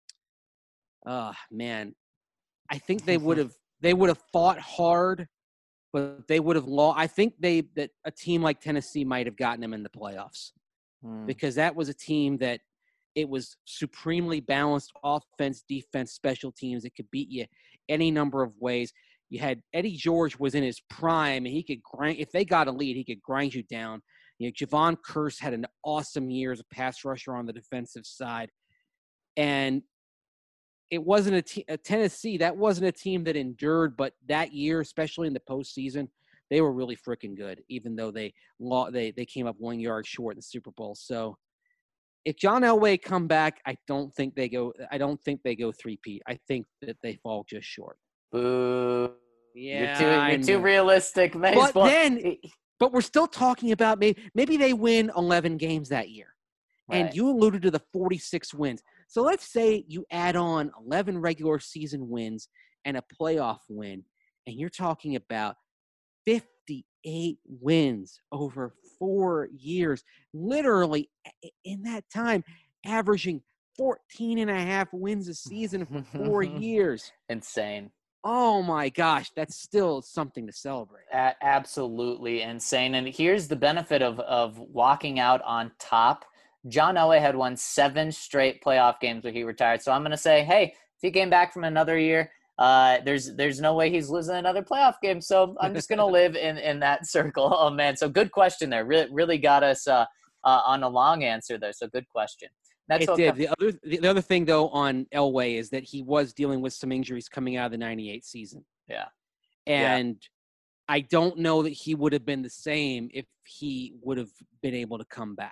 C: man, I think they would have. They would have fought hard, but they would have lost. I think that a team like Tennessee might have gotten them in the playoffs because that was a team that it was supremely balanced offense, defense, special teams. It could beat you any number of ways. You had Eddie George was in his prime, and he could grind. If they got a lead, he could grind you down. You know, Javon Kearse had an awesome year as a pass rusher on the defensive side, and it wasn't a Tennessee. That wasn't a team that endured, but that year, especially in the postseason, they were really freaking good. Even though they came up 1 yard short in the Super Bowl. So, if John Elway come back, I don't think they go 3-peat. I think that they fall just short.
A: Boo.
C: Yeah,
A: you're too realistic, Mace.
C: But we're still talking about maybe they win 11 games that year. Right. And you alluded to the 46 wins. So let's say you add on 11 regular season wins and a playoff win, and you're talking about 58 wins over 4 years, literally in that time, averaging 14.5 wins a season for 4 years.
A: Insane.
C: Oh my gosh, that's still something to celebrate.
A: Absolutely insane. And here's the benefit of walking out on top. John Elway had won 7 straight playoff games when he retired. So I'm going to say, hey, if he came back from another year, there's no way he's losing another playoff game. So I'm just going to live in that circle. Oh, man. So good question there. Really got us on a long answer there. So good question.
C: It did. The other thing, though, on Elway is that he was dealing with some injuries coming out of the 98 season.
A: Yeah.
C: And I don't know that he would have been the same if he would have been able to come back.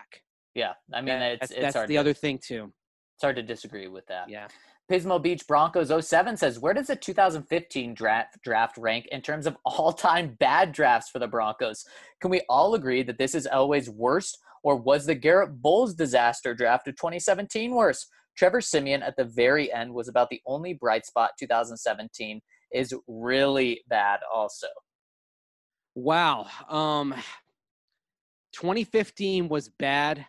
A: Yeah, I mean, it's
C: That's
A: hard
C: the
A: to,
C: other thing too.
A: it's hard to disagree with that.
C: Yeah.
A: Pismo Beach Broncos 07 says, where does the 2015 draft rank in terms of all-time bad drafts for the Broncos? Can we all agree that this is Elway's worst, or was the Garrett Bowles disaster draft of 2017 worse? Trevor Siemian at the very end was about the only bright spot. 2017 is really bad also.
C: Wow. 2015 was bad.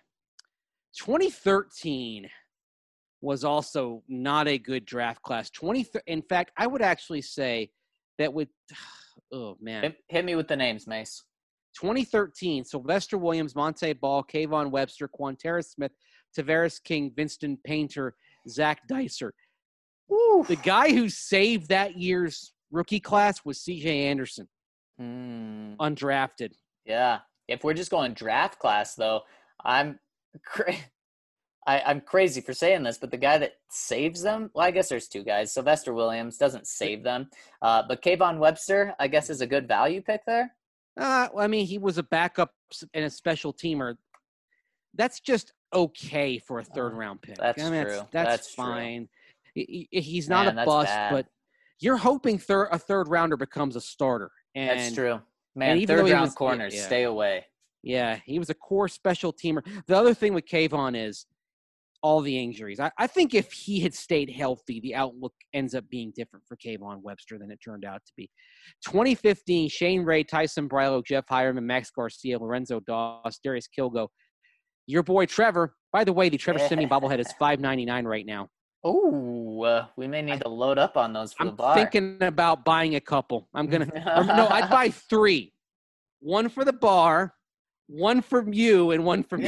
C: 2013 was also not a good draft class. In fact, I would actually say that with oh man.
A: Hit me with the names, Mace.
C: 2013, Sylvester Williams, Monte Ball, Kayvon Webster, Quanterra Smith, Tavares King, Vincent Painter, Zach Dicer.
A: Oof.
C: The guy who saved that year's rookie class was C.J. Anderson, undrafted.
A: Yeah. If we're just going draft class, though, I'm crazy for saying this, but the guy that saves them, well, I guess there's two guys. Sylvester Williams doesn't save them. But Kayvon Webster, I guess, is a good value pick there.
C: I mean, he was a backup and a special teamer. That's just okay for a third-round pick.
A: That's true.
C: That's fine. True. He's not a bust, but you're hoping a third-rounder becomes a starter. And,
A: that's true. Man, third-round corners,
C: yeah.
A: Stay away.
C: Yeah, he was a core special teamer. The other thing with Kayvon is all the injuries. I think if he had stayed healthy, the outlook ends up being different for Kayvon Webster than it turned out to be. 2015, Shane Ray, Tyson Brylo, Jeff Hireman, Max Garcia, Lorenzo Doss, Darius Kilgo. Your boy Trevor. By the way, the Trevor Siemian bobblehead is $5.99 right now.
A: Oh, we may need to load up on those for the bar.
C: I'm thinking about buying a couple. I'd buy 3. 1 for the bar, 1 from you, and 1 from me.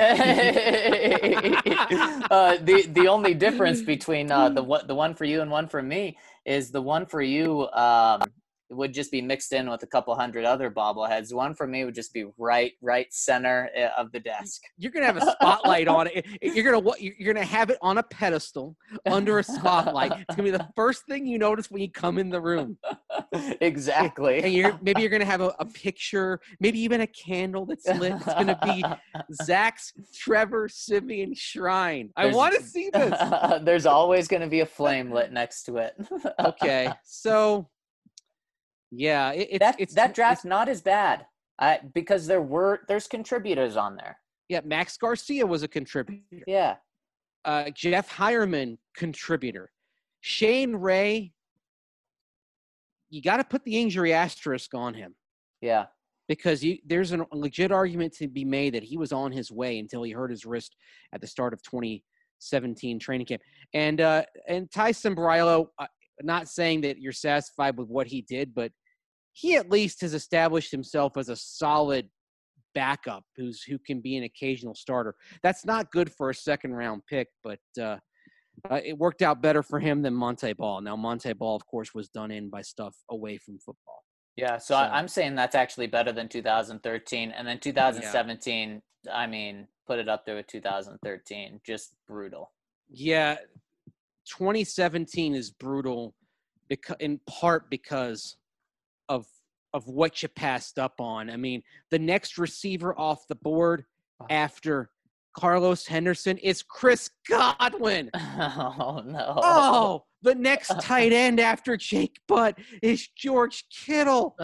A: The only difference between the one for you and 1 for me is the 1 for you would just be mixed in with a couple hundred other bobbleheads. 1 for me would just be right center of the desk.
C: You're gonna have a spotlight on it. You're gonna have it on a pedestal under a spotlight. It's gonna be the first thing you notice when you come in the room.
A: Exactly.
C: And maybe you're gonna have a picture, maybe even a candle that's lit. It's gonna be Zach's Trevor Siemian shrine. I want to see this.
A: There's always gonna be a flame lit next to it.
C: Okay, so. Yeah,
A: that draft's not as bad because there's contributors on there.
C: Yeah, Max Garcia was a contributor.
A: Yeah.
C: Jeff Hireman, contributor. Shane Ray, you got to put the injury asterisk on him.
A: Yeah. Because
C: there's a legit argument to be made that he was on his way until he hurt his wrist at the start of 2017 training camp. And Tyson Brylo, not saying that you're satisfied with what he did, but he at least has established himself as a solid backup who can be an occasional starter. That's not good for a second-round pick, but it worked out better for him than Monte Ball. Now, Monte Ball, of course, was done in by stuff away from football.
A: Yeah, so I'm saying that's actually better than 2013. And then 2017, yeah. I mean, put it up there with 2013. Just brutal.
C: Yeah, 2017 is brutal in part because of what you passed up on. I mean, the next receiver off the board after Carlos Henderson is Chris Godwin.
A: Oh, no.
C: Oh, the next tight end after Jake Butt is George Kittle.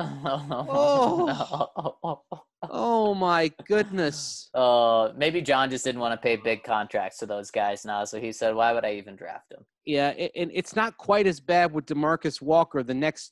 C: Oh, my goodness.
A: Maybe John just didn't want to pay big contracts to those guys now, so he said, why would I even draft him?
C: Yeah, and it's not quite as bad with DeMarcus Walker, the next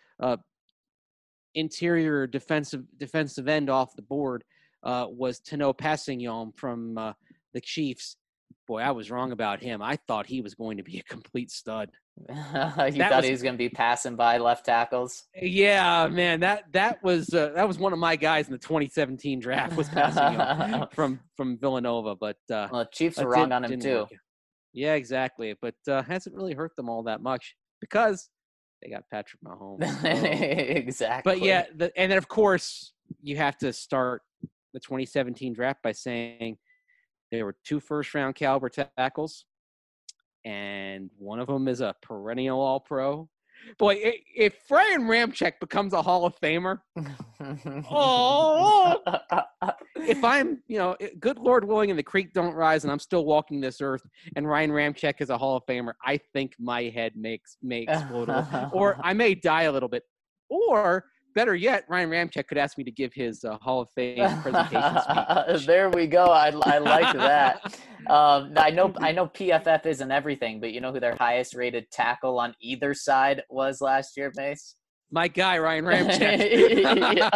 C: interior defensive end off the board was Tano Passignon from the Chiefs. Boy, I was wrong about him. I thought he was going to be a complete stud.
A: You thought he was going to be passing by left tackles?
C: Yeah, man, that was one of my guys in the 2017 draft was Passignon from Villanova. But
A: the Chiefs were wrong on him too.
C: Yeah, exactly. But hasn't really hurt them all that much because they got Patrick Mahomes. So.
A: Exactly.
C: But yeah, and then of course you have to start the 2017 draft by saying there were 2 first-round caliber tackles, and one of them is a perennial All-Pro. Boy, if Brian Ramczyk becomes a Hall of Famer, if I'm, good Lord willing, and the creek don't rise, and I'm still walking this earth, and Ryan Ramczyk is a Hall of Famer, I think my head may explode a little, or I may die a little bit, or better yet, Ryan Ramczyk could ask me to give his Hall of Fame presentation speech.
A: There we go. I like that. I know PFF isn't everything, but you know who their highest rated tackle on either side was last year, Mace?
C: My guy, Ryan Ramczyk.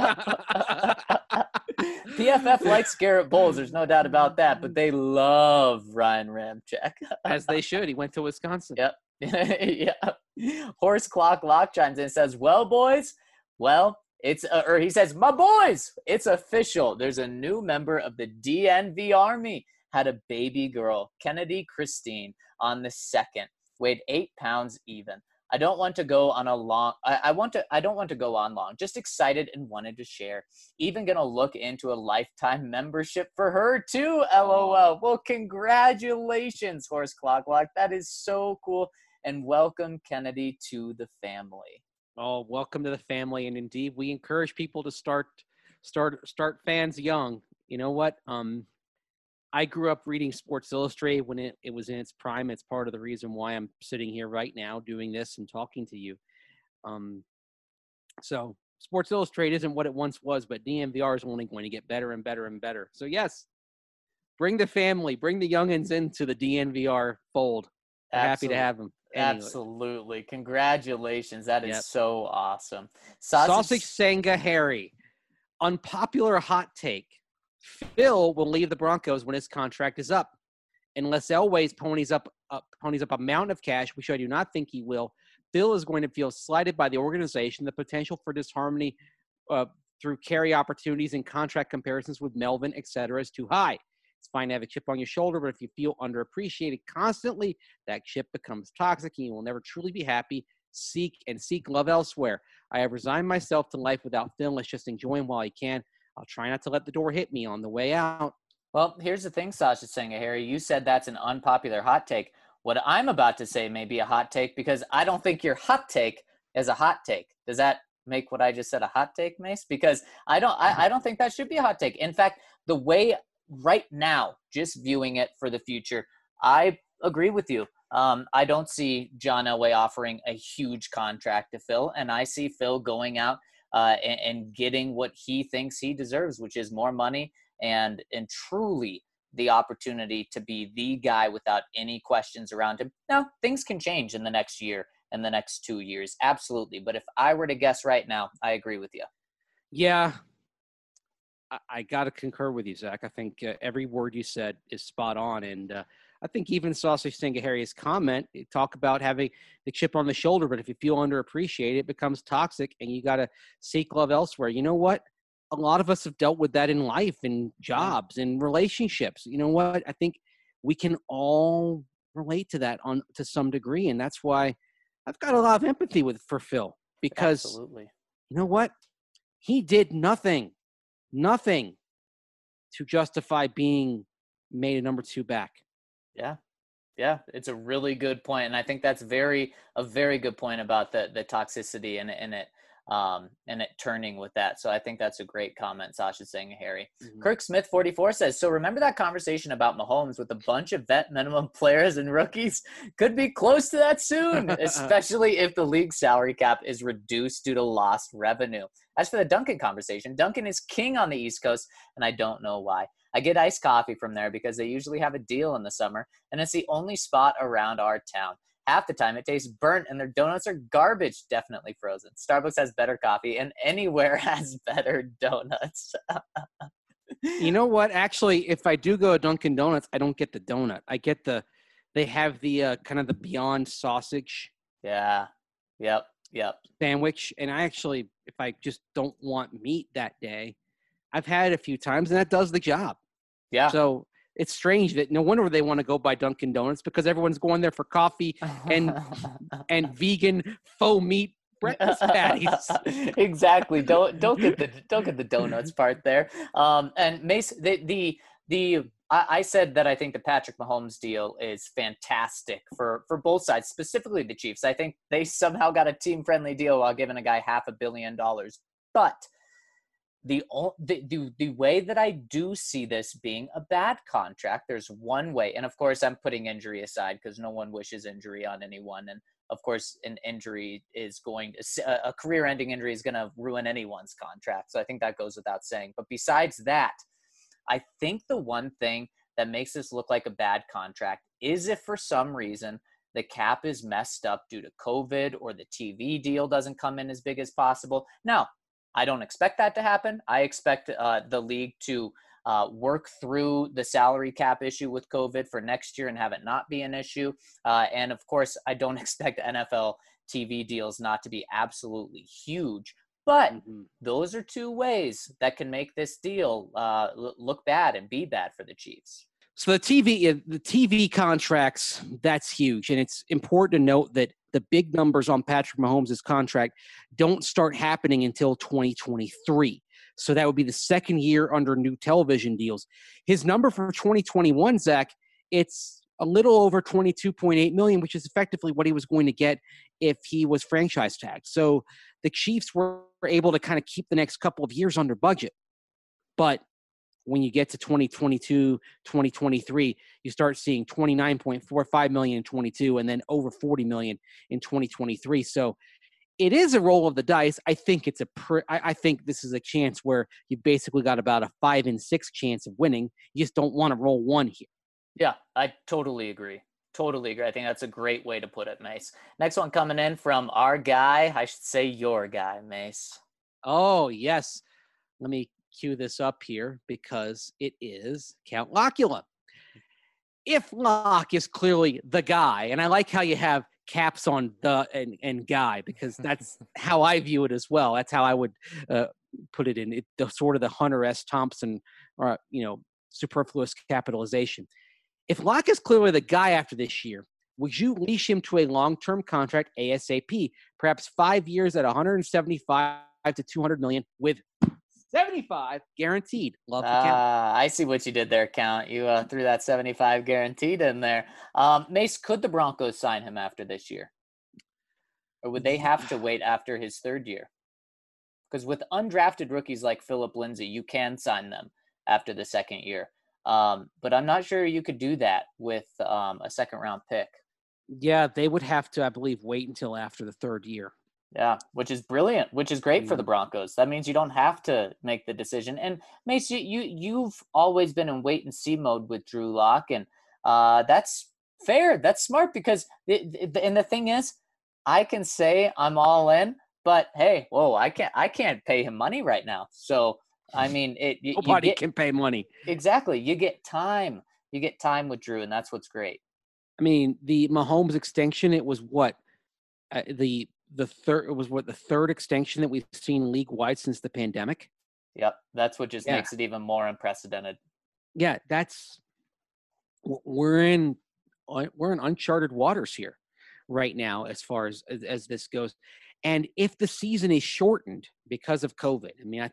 A: PFF likes Garrett Bowles. There's no doubt about that, but they love Ryan Ramczyk.
C: As they should. He went to Wisconsin.
A: Yep. Yeah. Horse Clock Lock chimes in and says, well, boys, or he says, my boys, it's official. There's a new member of the DNV Army. Had a baby girl, Kennedy Christine, on the 2nd. Weighed 8 pounds even. I don't want to go on long. I don't want to go on long. Just excited and wanted to share. Even gonna look into a lifetime membership for her too. LOL. Well, congratulations, Horse Clock Lock. That is so cool. And welcome, Kennedy, to the family.
C: Oh, welcome to the family. And indeed, we encourage people to start fans young. You know what? I grew up reading Sports Illustrated when it was in its prime. It's part of the reason why I'm sitting here right now doing this and talking to you. So Sports Illustrated isn't what it once was, but DNVR is only going to get better and better and better. So yes, bring the family, bring the youngins into the DNVR fold. We're happy to have them. Anyway.
A: Absolutely. Congratulations. That is so awesome.
C: Sausage Senga Harry. Unpopular hot take. Phil will leave the Broncos when his contract is up. Unless Elway's ponies up a mountain of cash, which I do not think he will, Phil is going to feel slighted by the organization. The potential for disharmony through carry opportunities and contract comparisons with Melvin, etc., is too high. It's fine to have a chip on your shoulder, but if you feel underappreciated constantly, that chip becomes toxic and you will never truly be happy. Seek love elsewhere. I have resigned myself to life without Phil. Let's just enjoy him while he can. I'll try not to let the door hit me on the way out.
A: Well, here's the thing, Sasha Senga, Harry. You said that's an unpopular hot take. What I'm about to say may be a hot take because I don't think your hot take is a hot take. Does that make what I just said a hot take, Mace? Because I don't think that should be a hot take. In fact, the way right now, just viewing it for the future, I agree with you. I don't see John Elway offering a huge contract to Phil, and I see Phil going out and getting what he thinks he deserves, which is more money and truly the opportunity to be the guy without any questions around him. Now, things can change in the next year and the next 2 years. Absolutely. But if I were to guess right now, I agree with you.
C: Yeah, I got to concur with you, Zach. I think every word you said is spot on. And I think even Sausage Senga Harry's comment, talk about having the chip on the shoulder, but if you feel underappreciated, it becomes toxic and you got to seek love elsewhere. You know what? A lot of us have dealt with that in life, in jobs, in relationships. You know what? I think we can all relate to that to some degree. And that's why I've got a lot of empathy for Phil, because
A: Absolutely.
C: You know what? He did nothing to justify being made a number 2 back.
A: Yeah, it's a really good point, and I think that's a very good point about the toxicity and it turning with that. So I think that's a great comment, Sasha saying, Harry. Mm-hmm. Kirk Smith 44 says, so remember that conversation about Mahomes with a bunch of vet minimum players and rookies? Could be close to that soon, especially if the league salary cap is reduced due to lost revenue. As for the Dunkin' conversation, Dunkin' is king on the East Coast, and I don't know why. I get iced coffee from there because they usually have a deal in the summer, and it's the only spot around our town. Half the time it tastes burnt and their donuts are garbage, definitely frozen. Starbucks has better coffee and anywhere has better donuts.
C: You know what? Actually, if I do go to Dunkin' Donuts, I don't get the donut. I get they have the kind of the Beyond sausage.
A: Yeah. Yep.
C: Sandwich. And I actually, if I just don't want meat that day, I've had it a few times and that does the job.
A: Yeah.
C: So it's strange that no wonder they want to go by Dunkin' Donuts, because everyone's going there for coffee and vegan faux meat breakfast patties.
A: Exactly. Don't get the donuts part there. And Mace, I said that I think the Patrick Mahomes deal is fantastic for both sides, specifically the Chiefs. I think they somehow got a team friendly deal while giving a guy $500 million. But the way that I do see this being a bad contract, there's one way, and of course I'm putting injury aside because no one wishes injury on anyone, and of course an injury is a career-ending injury is going to ruin anyone's contract, so I think that goes without saying. But besides that, I think the one thing that makes this look like a bad contract is if for some reason the cap is messed up due to COVID or the TV deal doesn't come in as big as possible. Now, I don't expect that to happen. I expect the league to work through the salary cap issue with COVID for next year and have it not be an issue. And of course, I don't expect NFL TV deals not to be absolutely huge. But those are two ways that can make this deal look bad and be bad for the Chiefs.
C: So the TV contracts, that's huge. And it's important to note that the big numbers on Patrick Mahomes' contract don't start happening until 2023. So that would be the second year under new television deals. His number for 2021, Zach, it's a little over $22.8 million, which is effectively what he was going to get if he was franchise tagged. So the Chiefs were able to kind of keep the next couple of years under budget. But when you get to 2022, 2023, you start seeing $29.45 million in 22 and then over $40 million in 2023. So it is a roll of the dice. I think I think this is a chance where you basically got about a 5 in 6 chance of winning. You just don't want to roll one here.
A: Yeah, I totally agree. Totally agree. I think that's a great way to put it, Mace. Next one coming in from our guy. I should say your guy, Mace.
C: Oh, yes. Let me cue this up here because it is Count Locula. If Locke is clearly the guy, and I like how you have caps on the and guy because that's how I view it as well. That's how I would put it in the sort of the Hunter S. Thompson or superfluous capitalization. If Locke is clearly the guy after this year, would you leash him to a long-term contract ASAP, perhaps 5 years at 175 to 200 million with 75 guaranteed? Love the count.
A: I see what you did there, Count. You threw that 75 guaranteed in there. Mace, could the Broncos sign him after this year? Or would they have to wait after his third year? Because with undrafted rookies like Philip Lindsay, you can sign them after the second year. But I'm not sure you could do that with a second-round pick.
C: Yeah, they would have to, I believe, wait until after the third year.
A: Yeah, which is brilliant, which is great for the Broncos. That means you don't have to make the decision. And Mace, you've always been in wait and see mode with Drew Lock, and that's fair. That's smart because and the thing is, I can say I'm all in, but hey, I can't pay him money right now. So I mean,
C: nobody can pay money.
A: Exactly, you get time. You get time with Drew, and that's what's great.
C: I mean, the Mahomes extension. It was what the third extension that we've seen league wide since the pandemic.
A: Yep, that's what just makes it even more unprecedented.
C: Yeah, we're in uncharted waters here right now as far as this goes. And if the season is shortened because of COVID, I mean,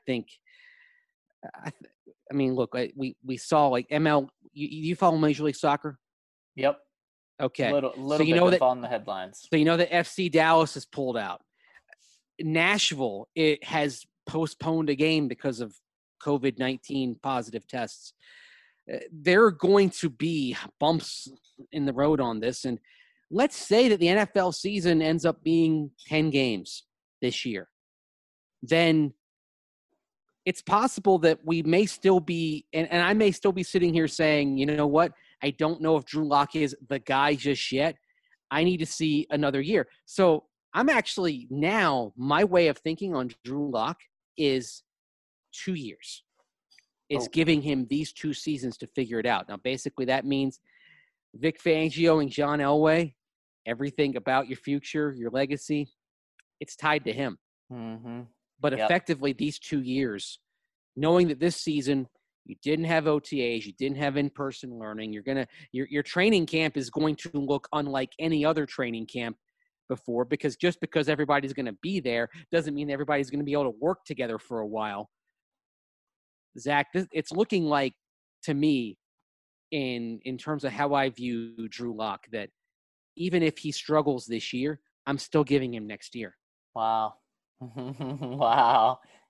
C: look, we saw like ML. You follow Major League Soccer?
A: Yep.
C: Okay.
A: Little so you know that on the headlines.
C: So you know that FC Dallas has pulled out. Nashville, it has postponed a game because of COVID-19 positive tests. There are going to be bumps in the road on this. And let's say that the NFL season ends up being 10 games this year. Then it's possible that we may still be, and I may still be sitting here saying, you know what? I don't know if Drew Lock is the guy just yet. I need to see another year. So I'm actually now, my way of thinking on Drew Lock is 2 years. It's giving him these 2 seasons to figure it out. Now, basically that means Vic Fangio and John Elway, everything about your future, your legacy, it's tied to him.
A: Mm-hmm.
C: But effectively these 2 years, knowing that this season you didn't have OTAs, you didn't have in-person learning, your training camp is going to look unlike any other training camp before, because just because everybody's going to be there doesn't mean everybody's going to be able to work together for a while. Zach, it's looking like, to me, in terms of how I view Drew Lock, that even if he struggles this year, I'm still giving him next year.
A: Wow. Wow.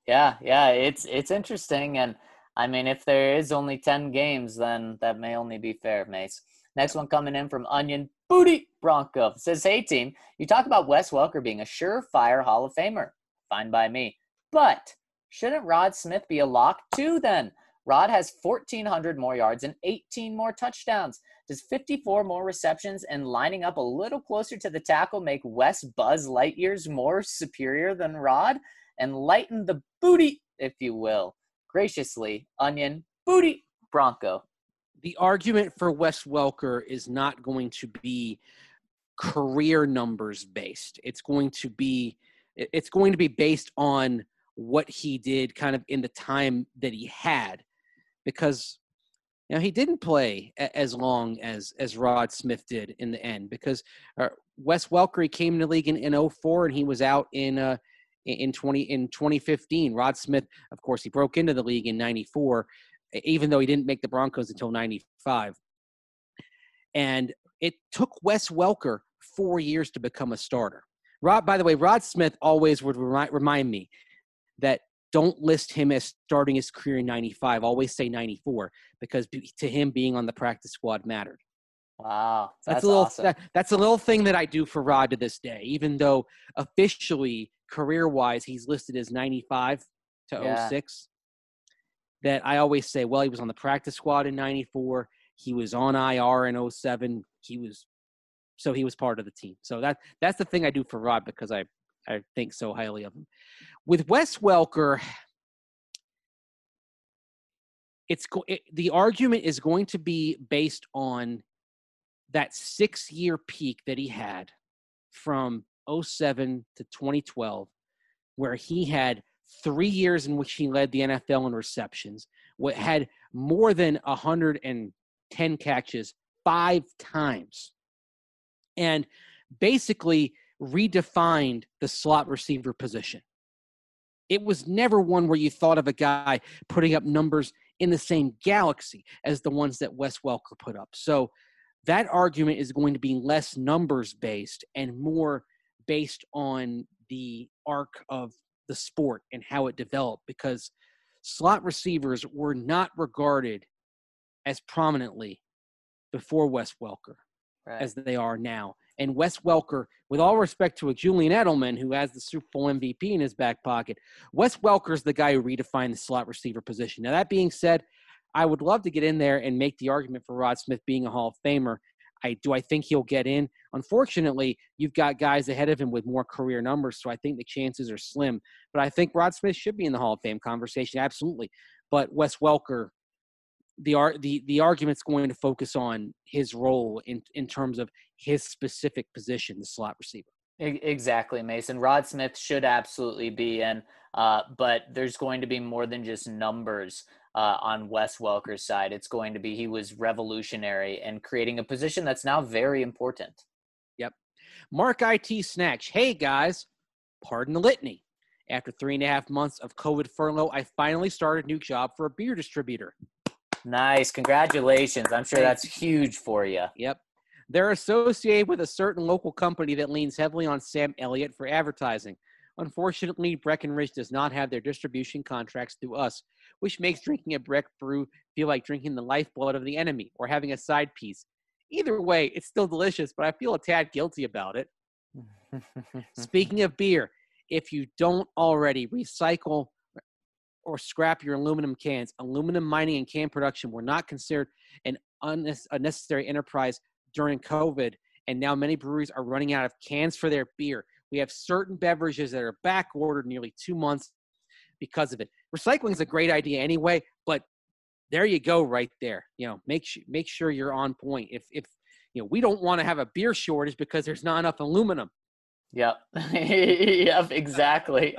A: Yeah, it's interesting, and I mean, if there is only 10 games, then that may only be fair, Mace. Next
C: Yep.
A: one coming in from Onion Booty Bronco. It says, hey team, you talk about Wes Welker being a surefire Hall of Famer. Fine by me. But shouldn't Rod Smith be a lock too then? Rod has 1,400 more yards and 18 more touchdowns. Does 54 more receptions and lining up a little closer to the tackle make Wes Buzz Lightyears more superior than Rod? And lighten the booty, if you will. Graciously, Onion Booty Bronco.
C: The argument for Wes Welker is not going to be career numbers based. It's going to be based on what he did kind of in the time that he had, because he didn't play as long as Rod Smith did in the end, because Wes Welker, he came in the league in 2004 and he was out in 2015. Rod Smith, of course, he broke into the league in 94, even though he didn't make the Broncos until 95. And it took Wes Welker 4 years to become a starter. By the way, Rod Smith always would remind me that don't list him as starting his career in 95. Always say 94, because to him, being on the practice squad mattered.
A: Wow,
C: that's
A: awesome.
C: That's a little thing that I do for Rod to this day, even though officially, career-wise, he's listed as 95 to 06. That I always say, well, he was on the practice squad in 94. He was on IR in 07. He was part of the team. So that's the thing I do for Rod, because I think so highly of him. With Wes Welker, the argument is going to be based on that 6-year peak that he had from 07 to 2012, where he had 3 years in which he led the NFL in receptions, had more than 110 catches 5 times, and basically redefined the slot receiver position. It was never one where you thought of a guy putting up numbers in the same galaxy as the ones that Wes Welker put up. So that argument is going to be less numbers-based and more based on the arc of the sport and how it developed, because slot receivers were not regarded as prominently before Wes Welker as they are now. And Wes Welker, with all respect to a Julian Edelman, who has the Super Bowl MVP in his back pocket, Wes Welker is the guy who redefined the slot receiver position. Now, that being said, I would love to get in there and make the argument for Rod Smith being a Hall of Famer. Do I think he'll get in? Unfortunately, you've got guys ahead of him with more career numbers, so I think the chances are slim. But I think Rod Smith should be in the Hall of Fame conversation, absolutely. But Wes Welker, the argument's going to focus on his role in terms of his specific position, the slot receiver.
A: Exactly, Mason. Rod Smith should absolutely be in, but there's going to be more than just numbers on Wes Welker's side. It's going to be he was revolutionary in creating a position that's now very important.
C: Yep. Mark IT Snatch. Hey, guys. Pardon the litany. After 3.5 months of COVID furlough, I finally started a new job for a beer distributor.
A: Nice. Congratulations. I'm sure that's huge for you.
C: Yep. They're associated with a certain local company that leans heavily on Sam Elliott for advertising. Unfortunately, Breckenridge does not have their distribution contracts through us, which makes drinking a Breck brew feel like drinking the lifeblood of the enemy or having a side piece. Either way, it's still delicious, but I feel a tad guilty about it. Speaking of beer, if you don't already recycle or scrap your aluminum cans, aluminum mining and can production were not considered an unnecessary enterprise during COVID, and now many breweries are running out of cans for their beer. We have certain beverages that are back ordered nearly 2 months because of it. Recycling is a great idea anyway, but there you go right there. Make sure you're on point. If we don't want to have a beer shortage because there's not enough aluminum.
A: Yep. Yep, exactly.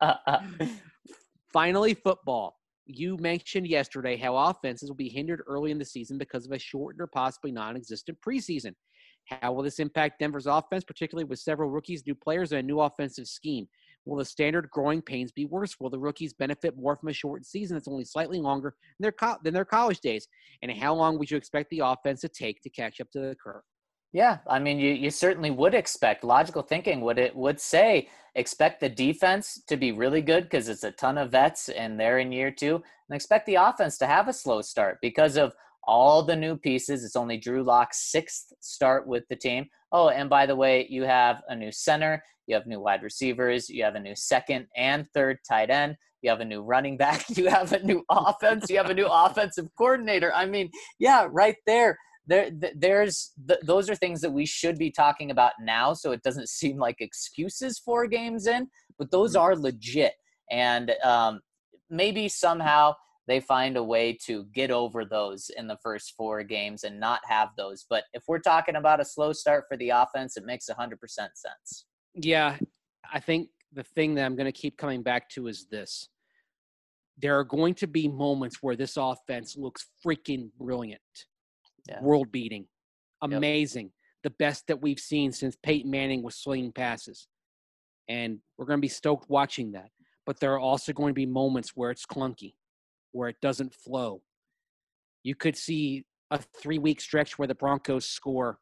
C: Finally, football. You mentioned yesterday how offenses will be hindered early in the season because of a shortened or possibly non-existent preseason. How will this impact Denver's offense, particularly with several rookies, new players, and a new offensive scheme? Will the standard growing pains be worse? Will the rookies benefit more from a shortened season that's only slightly longer than their college days? And how long would you expect the offense to take to catch up to the curve?
A: Yeah, I mean, you certainly would expect logical thinking. Would say expect the defense to be really good because it's a ton of vets and they're in year two, and expect the offense to have a slow start because of all the new pieces. It's only Drew Lock's sixth start with the team. Oh, and by the way, you have a new center, you have new wide receivers, you have a new second and third tight end, you have a new running back, you have a new offense, you have a new offensive coordinator. I mean, yeah, right there those are things that we should be talking about now, so it doesn't seem like excuses 4 games in, but those are legit. And maybe somehow they find a way to get over those in the first 4 games and not have those. But if we're talking about a slow start for the offense, it makes 100% sense.
C: Yeah, I think the thing that I'm going to keep coming back to is this. There are going to be moments where this offense looks freaking brilliant. Yeah. World beating, amazing, yep. The best that we've seen since Peyton Manning was slinging passes. And we're going to be stoked watching that. But there are also going to be moments where it's clunky, where it doesn't flow. You could see a 3-week stretch where the Broncos score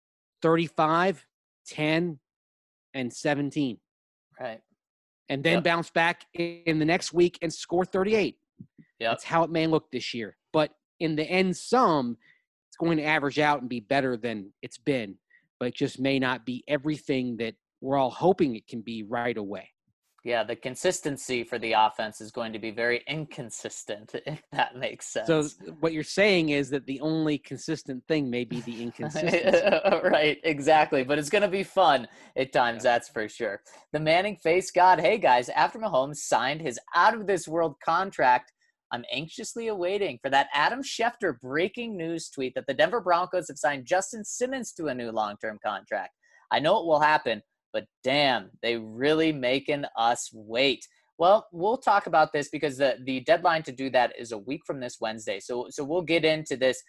C: 35, 10, and 17.
A: Right.
C: And then bounce back in the next week and score 38.
A: Yeah.
C: That's how it may look this year. But in the end sum, it's going to average out and be better than it's been, but it just may not be everything that we're all hoping it can be right away.
A: Yeah, the consistency for the offense is going to be very inconsistent, if that makes sense.
C: So what you're saying is that the only consistent thing may be the inconsistency.
A: Right, exactly. But it's going to be fun at times, that's for sure. The Manning face god. Hey, guys, after Mahomes signed his out-of-this-world contract, I'm anxiously awaiting for that Adam Schefter breaking news tweet that the Denver Broncos have signed Justin Simmons to a new long-term contract. I know it will happen, but damn, they really making us wait. Well, we'll talk about this because the deadline to do that is a week from this Wednesday. So we'll get into this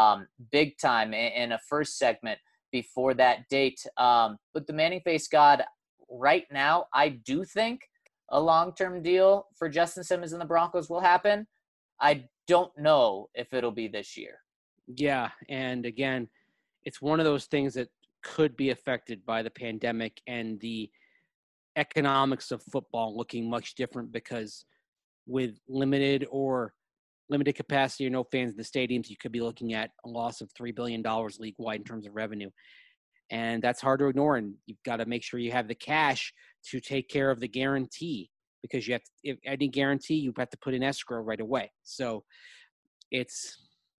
A: big time in a first segment before that date. But the Manning face god, right now, I do think a long-term deal for Justin Simmons and the Broncos will happen. I don't know if it'll be this year.
C: Yeah, and again, it's one of those things that could be affected by the pandemic and the economics of football looking much different because with limited capacity or no fans in the stadiums, you could be looking at a loss of $3 billion league-wide in terms of revenue. And that's hard to ignore, and you've got to make sure you have the cash to take care of the guarantee because you have to, if any guarantee, you have to put in escrow right away. So it's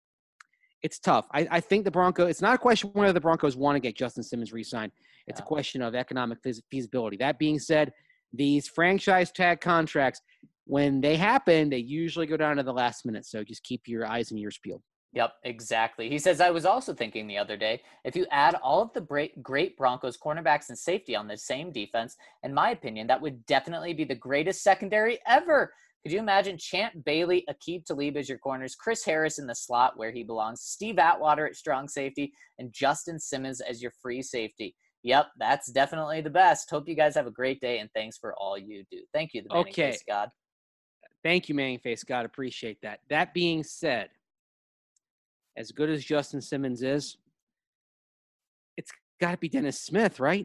C: tough. I think the Broncos, it's not a question whether the Broncos want to get Justin Simmons re-signed. It's a question of economic feasibility. That being said, these franchise tag contracts, when they happen, they usually go down to the last minute. So just keep your eyes and ears peeled.
A: Yep, exactly. He says, I was also thinking the other day, if you add all of the great Broncos cornerbacks and safety on the same defense, in my opinion, that would definitely be the greatest secondary ever. Could you imagine Champ Bailey, Aqib Talib as your corners, Chris Harris in the slot where he belongs, Steve Atwater at strong safety, and Justin Simmons as your free safety? Yep, that's definitely the best. Hope you guys have a great day, and thanks for all you do. Thank you, the Manning Face God.
C: Thank you, Manning Face God. Appreciate that. That being said, as good as Justin Simmons is, it's got to be Dennis Smith, right?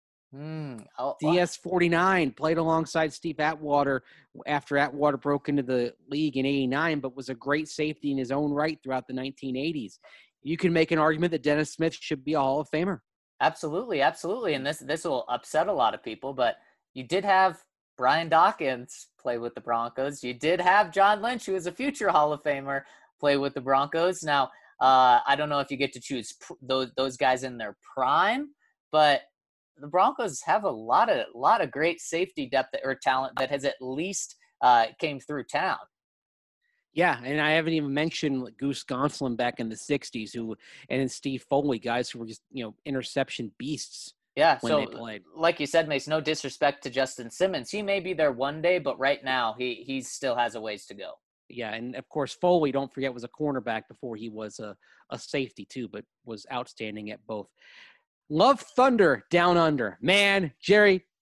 C: DS-49 played alongside Steve Atwater after Atwater broke into the league in '89, but was a great safety in his own right throughout the 1980s. You can make an argument that Dennis Smith should be a Hall of Famer.
A: Absolutely, absolutely. And this will upset a lot of people, but you did have Brian Dawkins play with the Broncos. You did have John Lynch, who is a future Hall of Famer, play with the Broncos. Now, I don't know if you get to choose those guys in their prime, but the Broncos have a lot of great safety depth or talent that has at least came through town.
C: Yeah, and I haven't even mentioned Goose Gonsolin back in the 60s, and then Steve Foley, guys who were just, interception beasts.
A: Yeah,
C: when they played.
A: Like you said, Mace, no disrespect to Justin Simmons. He may be there one day, but right now he still has a ways to go.
C: Yeah, and of course Foley, don't forget, was a cornerback before he was a safety too, but was outstanding at both. Love Thunder Down Under. Man, Jerry,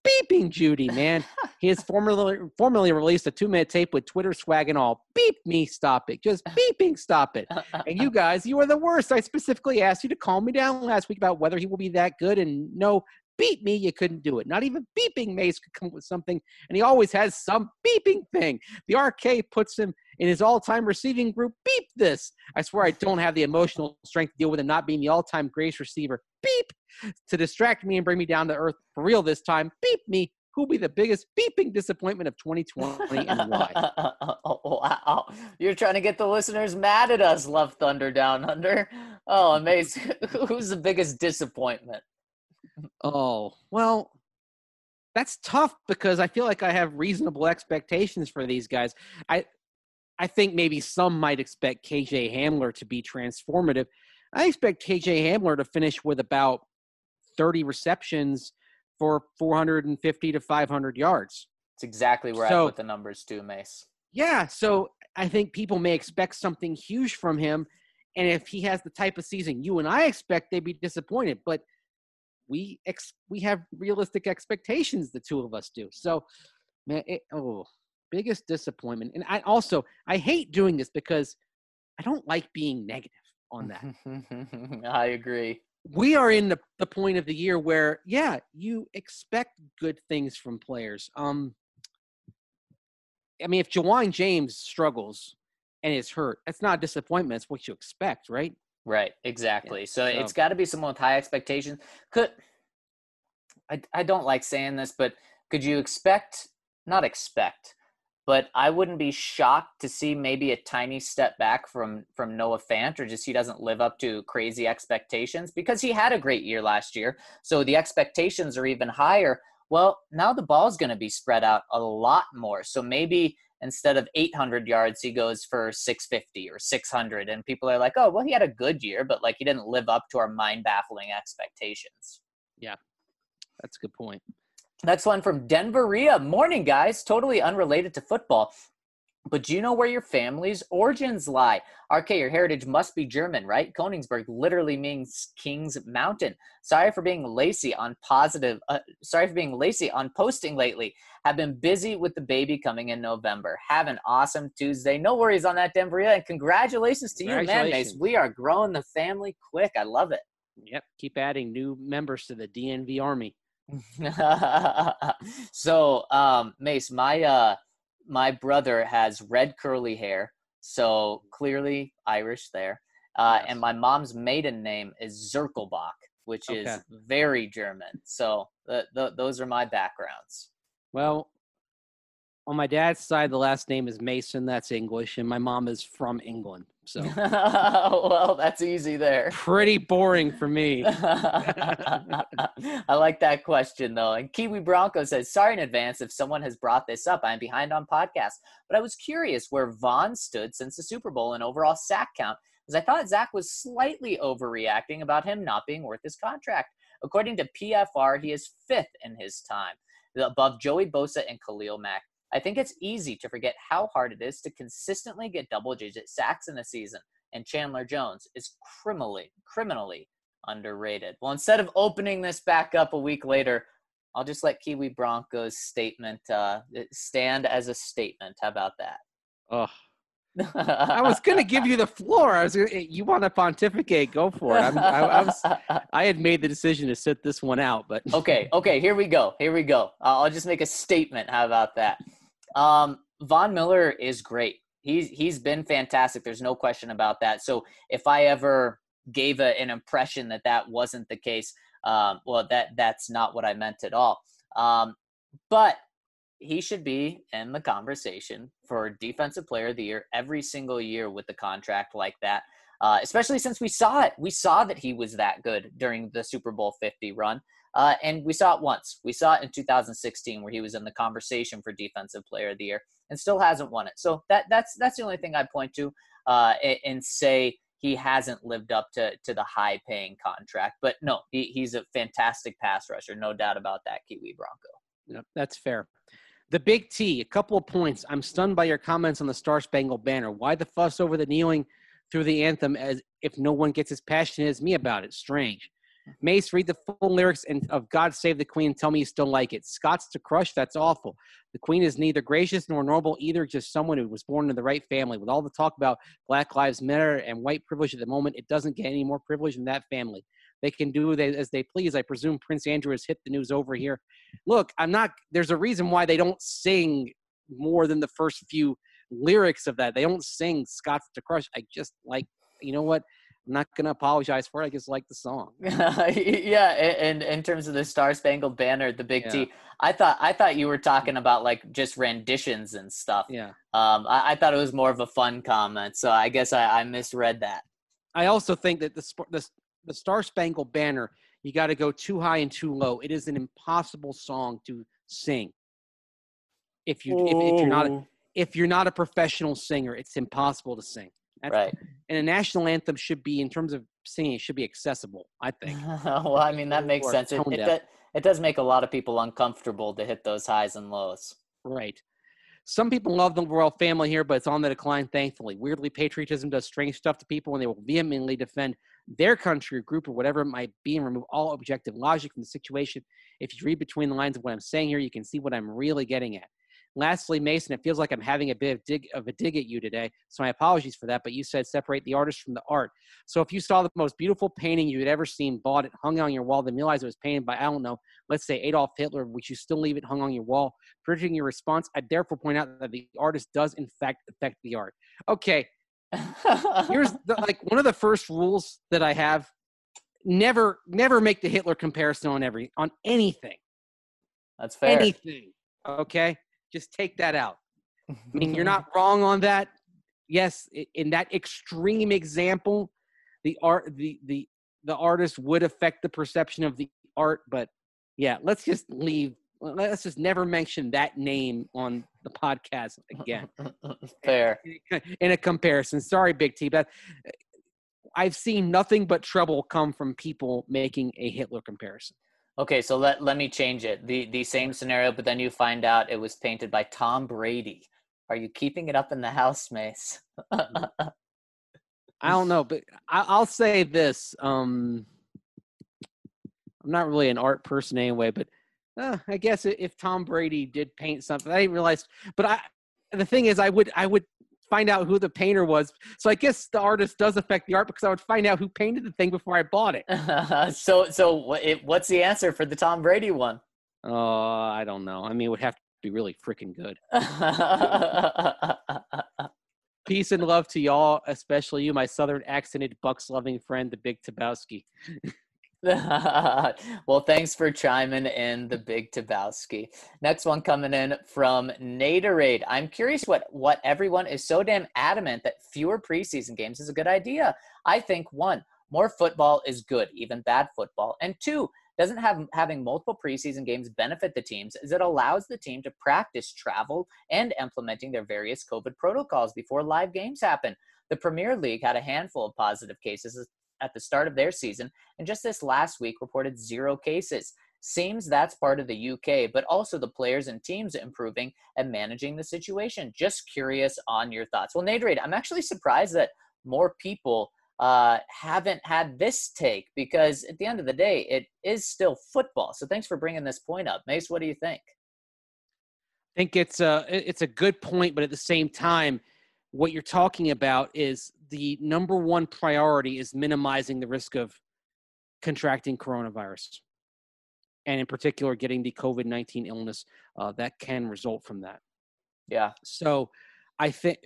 C: beeping Judy, man. He has formerly released a 2-minute tape with Twitter swag and all. Beep me, stop it. Just beeping, stop it. And you guys, you are the worst. I specifically asked you to calm me down last week about whether he will be that good, and no, beep me, you couldn't do it. Not even beeping Mace could come up with something, and he always has some beeping thing. The RK puts him in his all-time receiving group. Beep this. I swear I don't have the emotional strength to deal with him not being the all-time greatest receiver. Beep. To distract me and bring me down to earth for real this time. Beep me. Who'll be the biggest beeping disappointment of 2020 and why?
A: Oh, wow. You're trying to get the listeners mad at us, Love Thunder Down Under. Oh, amazing. Who's the biggest disappointment?
C: Oh, well, that's tough because I feel like I have reasonable expectations for these guys. I think maybe some might expect KJ Hamler to be transformative. I expect KJ Hamler to finish with about 30 receptions for 450 to 500 yards.
A: It's exactly where I put the numbers too, Mace.
C: Yeah, so I think people may expect something huge from him, and if he has the type of season you and I expect, they'd be disappointed. But we have realistic expectations, the two of us do. So, man, biggest disappointment. And I hate doing this because I don't like being negative on that.
A: I agree.
C: We are in the point of the year where, yeah, you expect good things from players. I mean, if Ja'Wuan James struggles and is hurt, that's not a disappointment. It's what you expect, right?
A: Right, exactly.
C: Yeah,
A: so it's got to be someone with high expectations. I don't like saying this, but could you not expect, but I wouldn't be shocked to see maybe a tiny step back from Noah Fant, or just he doesn't live up to crazy expectations because he had a great year last year. So the expectations are even higher. Well, now the ball's going to be spread out a lot more. So maybe instead of 800 yards, he goes for 650 or 600. And people are like, oh, well, he had a good year, but like he didn't live up to our mind-baffling expectations.
C: Yeah, that's a good point.
A: Next one from Denver Rhea. Morning, guys. Totally unrelated to football. But do you know where your family's origins lie? RK, your heritage must be German, right? Königsberg literally means King's Mountain. Sorry for being lazy on posting lately. Have been busy with the baby coming in November. Have an awesome Tuesday. No worries on that, Denver Rhea. And congratulations to you, man, Mace. We are growing the family quick. I love it.
C: Yep. Keep adding new members to the DNV Army.
A: So, Mace, my brother has red curly hair, so clearly Irish there. Yes. And my mom's maiden name is Zirkelbach, which is very German. So those are my backgrounds.
C: Well, on my dad's side, the last name is Mason. That's English. And my mom is from England. So,
A: well, that's easy there.
C: Pretty boring for me.
A: I like that question, though. And Kiwi Bronco says, sorry in advance if someone has brought this up. I'm behind on podcasts. But I was curious where Vaughn stood since the Super Bowl in overall sack count, because I thought Zach was slightly overreacting about him not being worth his contract. According to PFR, he is 5th in his time, above Joey Bosa and Khalil Mack. I think it's easy to forget how hard it is to consistently get double-digit sacks in a season, and Chandler Jones is criminally underrated. Well, instead of opening this back up a week later, I'll just let Kiwi Bronco's statement stand as a statement. How about that?
C: Oh, I was going to give you the floor. You want to pontificate? Go for it. I had made the decision to sit this one out, but
A: okay. Here we go. I'll just make a statement. How about that? Von Miller is great. He's been fantastic. There's no question about that. So if I ever gave an impression that wasn't the case, well, that's not what I meant at all. But he should be in the conversation for Defensive Player of the Year every single year with the contract like that, especially since we saw it. We saw that he was that good during the Super Bowl 50 run, and we saw it once. We saw it in 2016 where he was in the conversation for Defensive Player of the Year and still hasn't won it. So that's the only thing I point to and say he hasn't lived up to the high-paying contract. But no, he's a fantastic pass rusher, no doubt about that, Kiwi Bronco.
C: Yep, that's fair. The Big T, a couple of points. I'm stunned by your comments on the Star Spangled Banner. Why the fuss over the kneeling through the anthem as if no one gets as passionate as me about it? Strange. Mace, read the full lyrics of God Save the Queen and tell me you still like it. Scots to crush, that's awful. The Queen is neither gracious nor noble either, just someone who was born in the right family. With all the talk about Black Lives Matter and white privilege at the moment, it doesn't get any more privilege than that family. They can do as they please. I presume Prince Andrew has hit the news over here. Look, there's a reason why they don't sing more than the first few lyrics of that. They don't sing Scots to crush. I just like, you know what? I'm not going to apologize for it. I just like the song.
A: Yeah, and in terms of the Star Spangled Banner, the Big T, I thought you were talking about like just renditions and stuff.
C: Yeah.
A: I thought it was more of a fun comment, so I guess I misread that.
C: I also think that the Star Spangled Banner, you got to go too high and too low. It is an impossible song to sing. If you're not a professional singer, it's impossible to sing.
A: Right.
C: And a national anthem should be, in terms of singing, it should be accessible, I think.
A: Well, I mean, that makes sense. It does make a lot of people uncomfortable to hit those highs and lows.
C: Right. Some people love the royal family here, but it's on the decline, thankfully. Weirdly, patriotism does strange stuff to people when they will vehemently defend their country or group or whatever it might be and remove all objective logic from the situation. If you read between the lines of what I'm saying here, you can see what I'm really getting at. Lastly, Mason, it feels like I'm having a bit of a dig at you today, so my apologies for that, but you said separate the artist from the art. So if you saw the most beautiful painting you had ever seen, bought it, hung on your wall, then realized it was painted by, I don't know, let's say Adolf Hitler, would you still leave it hung on your wall? Predicting your response, I therefore point out that the artist does, in fact, affect the art. Okay, here's one of the first rules that I have. Never make the Hitler comparison on anything.
A: That's fair.
C: Anything, okay? Just take that out. I mean, you're not wrong on that. Yes, in that extreme example, the artist would affect the perception of the art. But yeah, let's just never mention that name on the podcast again.
A: Fair.
C: In a comparison. Sorry, Big T, but I've seen nothing but trouble come from people making a Hitler comparison.
A: Okay, so let me change it. The same scenario, but then you find out it was painted by Tom Brady. Are you keeping it up in the house, Mace?
C: I don't know, but I'll say this. I'm not really an art person anyway, but I guess if Tom Brady did paint something, I didn't realize. But the thing is, I would find out who the painter was. So I guess the artist does affect the art because I would find out who painted the thing before I bought it.
A: So what's the answer for the Tom Brady one?
C: Oh, I don't know. I mean, it would have to be really freaking good. Peace and love to y'all, especially you, my Southern accented Bucks-loving friend, the Big Tabowski.
A: Well, thanks for chiming in, the Big Tabowski. Next one coming in from Naderade. I'm curious what everyone is so damn adamant that fewer preseason games is a good idea. I think 1, more football is good, even bad football. And 2, doesn't having multiple preseason games benefit the teams as it allows the team to practice travel and implementing their various COVID protocols before live games happen. The Premier League had a handful of positive cases at the start of their season, and just this last week reported 0 cases. Seems that's part of the UK, but also the players and teams improving and managing the situation. Just curious on your thoughts. Well, Naderade, I'm actually surprised that more people haven't had this take, because at the end of the day, it is still football. So thanks for bringing this point up. Mace, what do you think?
C: I think it's a good point, but at the same time, what you're talking about is the number one priority is minimizing the risk of contracting coronavirus, and in particular, getting the COVID-19 illness that can result from that.
A: Yeah.
C: So I think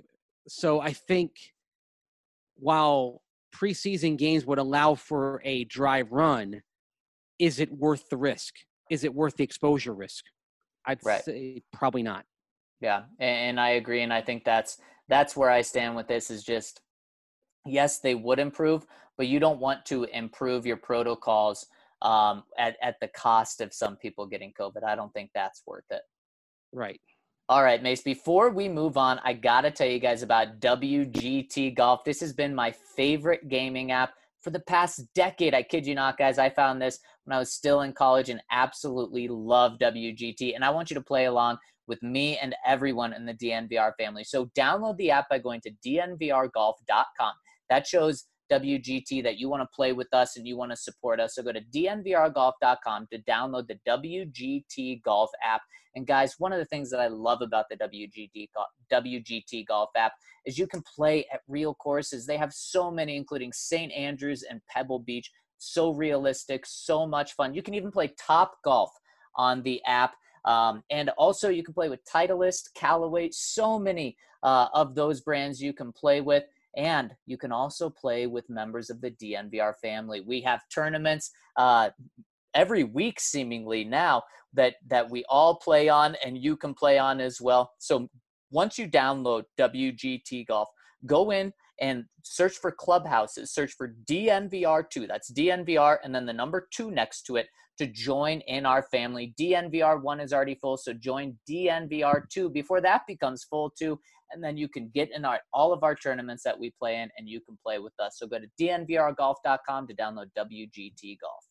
C: while preseason games would allow for a dry run, is it worth the risk? Is it worth the exposure risk? I'd say probably not.
A: Yeah, and I agree, and I think that's where I stand with this. Is just, yes, they would improve, but you don't want to improve your protocols at the cost of some people getting COVID. I don't think that's worth it.
C: Right.
A: All right, Mace, before we move on, I got to tell you guys about WGT Golf. This has been my favorite gaming app for the past decade. I kid you not, guys. I found this when I was still in college and absolutely love WGT. And I want you to play along with me and everyone in the DNVR family. So download the app by going to dnvrgolf.com. That shows WGT that you want to play with us and you want to support us. So go to dnvrgolf.com to download the WGT Golf app. And guys, one of the things that I love about the WGT Golf app is you can play at real courses. They have so many, including St. Andrews and Pebble Beach. So realistic, so much fun. You can even play Top Golf on the app. And also you can play with Titleist, Callaway, so many of those brands you can play with. And you can also play with members of the DNVR family. We have tournaments every week seemingly now that we all play on and you can play on as well. So once you download WGT Golf, go in and search for clubhouses, search for DNVR2. That's DNVR and then the number 2 next to it to join in our family. DNVR1 is already full, so join DNVR2 before that becomes full too. And then you can get in all of our tournaments that we play in and you can play with us. So go to dnvrgolf.com to download WGT Golf.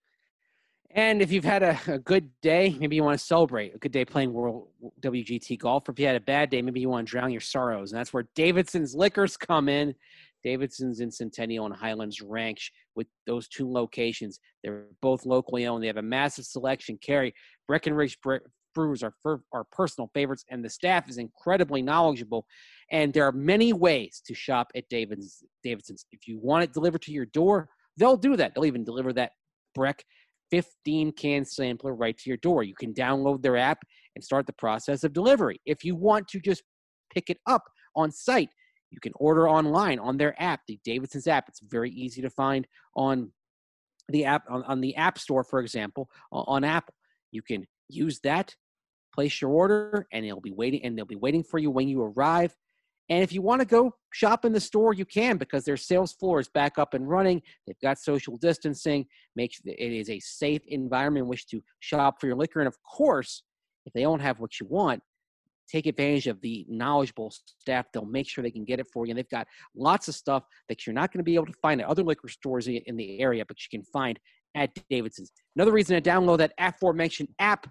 C: And if you've had a good day, maybe you want to celebrate a good day playing World WGT Golf. Or if you had a bad day, maybe you want to drown your sorrows. And that's where Davidson's Liquors come in. Davidson's in Centennial and Highlands Ranch with those 2 locations. They're both locally owned. They have a massive selection. Carry Breckenridge Brews are personal favorites, and the staff is incredibly knowledgeable. And there are many ways to shop at Davidson's. If you want it delivered to your door, they'll do that. They'll even deliver that Breck 15-can sampler right to your door. You can download their app and start the process of delivery. If you want to just pick it up on site, you can order online on their app, the Davidson's app. It's very easy to find on the app, on the App Store, for example, on Apple. You can use that, place your order, and they'll be waiting for you when you arrive. And if you want to go shop in the store, you can, because their sales floor is back up and running. They've got social distancing. Make sure that it is a safe environment in which to shop for your liquor. And of course, if they don't have what you want, take advantage of the knowledgeable staff. They'll make sure they can get it for you. And they've got lots of stuff that you're not going to be able to find at other liquor stores in the area, but you can find at Davidson's. Another reason to download that aforementioned app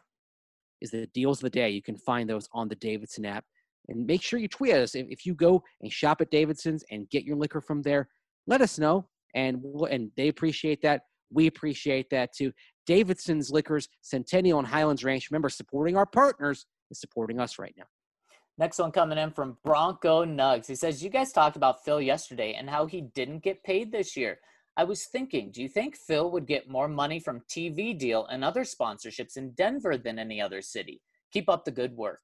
C: is the deals of the day. You can find those on the Davidson app. And make sure you tweet us. If you go and shop at Davidson's and get your liquor from there, let us know. And they appreciate that. We appreciate that too. Davidson's Liquors, Centennial and Highlands Ranch. Remember, supporting our partners is supporting us right now.
A: Next one coming in from Bronco Nugs. He says, you guys talked about Phil yesterday and how he didn't get paid this year. I was thinking, do you think Phil would get more money from TV deal and other sponsorships in Denver than any other city? Keep up the good work.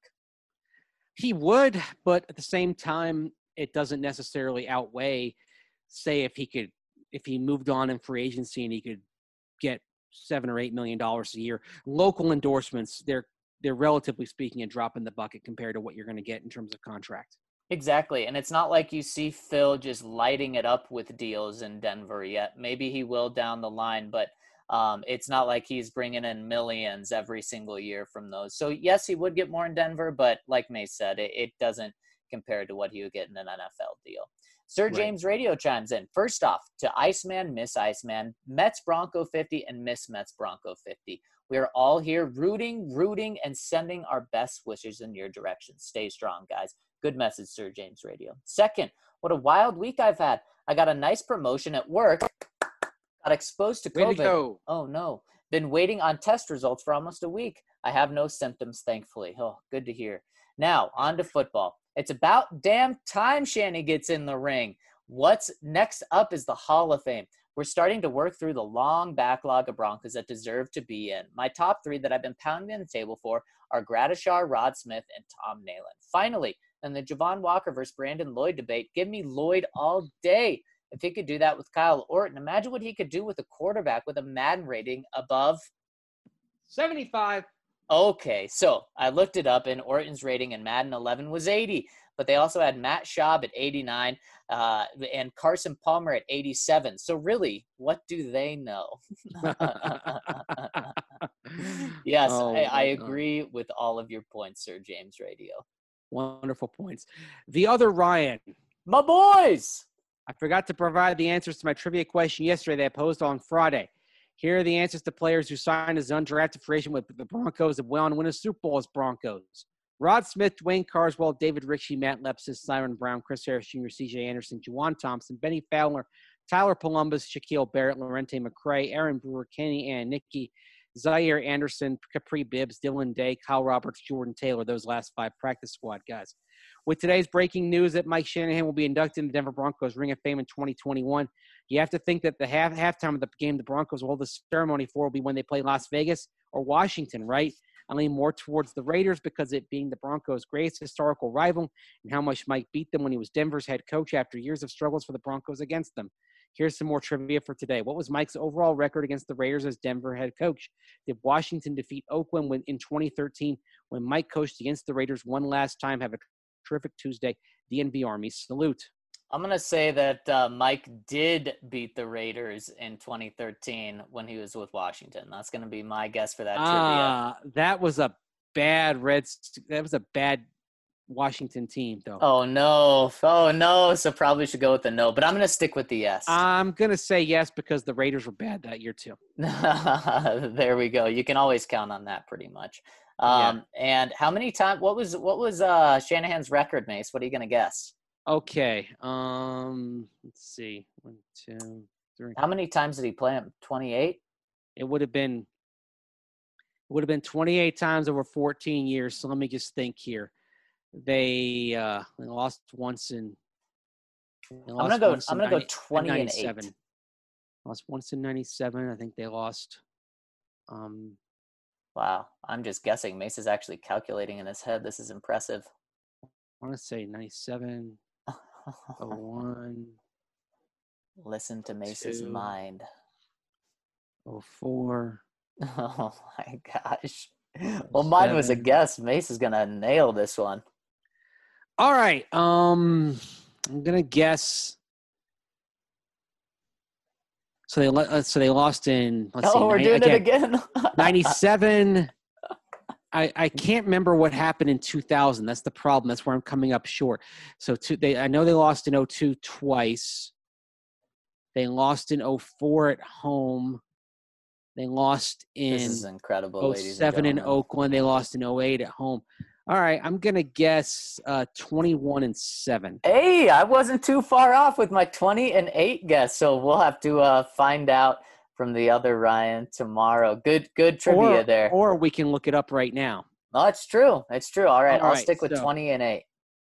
C: He would, but at the same time, it doesn't necessarily outweigh, say, if he moved on in free agency and he could get $7 or $8 million a year. Local endorsements, they're relatively speaking a drop in the bucket compared to what you're going to get in terms of contract.
A: Exactly. And it's not like you see Phil just lighting it up with deals in Denver yet. Maybe he will down the line, but it's not like he's bringing in millions every single year from those. So yes, he would get more in Denver, but like May said, it doesn't compare to what he would get in an NFL deal. Sir James Radio chimes in. First off, to Iceman, Miss Iceman, Mets Bronco 50 and Miss Mets Bronco 50. We are all here rooting, and sending our best wishes in your direction. Stay strong, guys. Good message, Sir James Radio. Second, what a wild week I've had. I got a nice promotion at work. Got exposed to COVID.
C: Way to go.
A: Oh, no. Been waiting on test results for almost a week. I have no symptoms, thankfully. Oh, good to hear. Now, on to football. It's about damn time Shanny gets in the ring. What's next up is the Hall of Fame. We're starting to work through the long backlog of Broncos that deserve to be in. My top 3 that I've been pounding the table for are Gradishar, Rod Smith, and Tom Nalen. Finally, in the Javon Walker versus Brandon Lloyd debate, give me Lloyd all day. If he could do that with Kyle Orton, imagine what he could do with a quarterback with a Madden rating above
C: 75.
A: Okay, so I looked it up, and Orton's rating in Madden 11 was 80. But they also had Matt Schaub at 89 and Carson Palmer at 87. So really, what do they know? Yes, I agree with all of your points, Sir James Radio.
C: Wonderful points. The other Ryan.
A: My boys!
C: I forgot to provide the answers to my trivia question yesterday that I posed on Friday. Here are the answers to players who signed as undrafted free agent with the Broncos and went on to win a Super Bowl as Broncos. Rod Smith, Dwayne Carswell, David Ritchie, Matt Lepsis, Siren Brown, Chris Harris Jr., C.J. Anderson, Juwan Thompson, Benny Fowler, Tyler Columbus, Shaquille Barrett, Lorente McCray, Aaron Brewer, Kenny and Nicky, Zaire Anderson, Capri Bibbs, Dylan Day, Kyle Roberts, Jordan Taylor, those last 5 practice squad guys. With today's breaking news that Mike Shanahan will be inducted in the Denver Broncos Ring of Fame in 2021, you have to think that the halftime of the game the Broncos will hold the ceremony for will be when they play Las Vegas or Washington, right? I lean more towards the Raiders because it being the Broncos' greatest historical rival and how much Mike beat them when he was Denver's head coach after years of struggles for the Broncos against them. Here's some more trivia for today. What was Mike's overall record against the Raiders as Denver head coach? Did Washington defeat Oakland in 2013 when Mike coached against the Raiders one last time? Have a terrific Tuesday. DNV Army salute.
A: I'm going to say that Mike did beat the Raiders in 2013 when he was with Washington. That's going to be my guess for that trivia.
C: That was a bad Washington team, though.
A: Oh, no. So probably should go with the no, but I'm going to stick with the yes.
C: I'm going to say yes because the Raiders were bad that year, too.
A: There we go. You can always count on that pretty much. And how many times – what was Shanahan's record, Mace? What are you going to guess?
C: Okay. Let's see. 1, 2, 3.
A: How many times did he play him? 28?
C: It would have been 28 times over 14 years. So let me just think here. They lost once in.
A: I'm gonna go 20 and 8.
C: Lost once in 97. I think they lost.
A: Wow, I'm just guessing. Mace is actually calculating in his head. This is impressive.
C: I want to say 97. 01.
A: Listen to Mace's mind.
C: 04.
A: Oh my gosh. Well, mine was a guess. Mace is gonna nail this one.
C: All right. I'm gonna guess. So they lost in.
A: We're doing it again.
C: 97. I can't remember what happened in 2000. That's the problem. That's where I'm coming up short. So I know they lost in 02 twice. They lost in 04 at home. They lost in
A: this is incredible,
C: 07 in Oakland. They lost in 08 at home. All right, I'm going to guess 21 and 7.
A: Hey, I wasn't too far off with my 20 and 8 guess. So we'll have to find out from the other Ryan tomorrow. Good trivia there.
C: Or we can look it up right now.
A: No, it's true. It's true. All right, I'll stick with 20 and 8.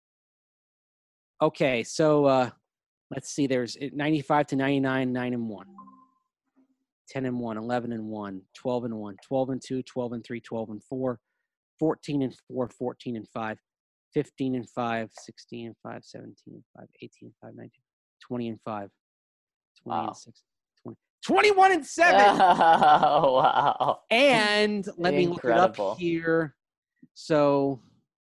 C: Okay, so let's see. There's 95 to 99, 9 and 1. 10 and 1, 11 and 1, 12 and 1, 12 and 2, 12 and 3, 12 and 4, 14 and 4, 14 and 5, 15 and 5, 16 and 5, 17 and 5, 18 and 5, 19, 20 and 5, 20 and 6, 20, 21 and 7.
A: Oh, wow.
C: And let me look it up here. So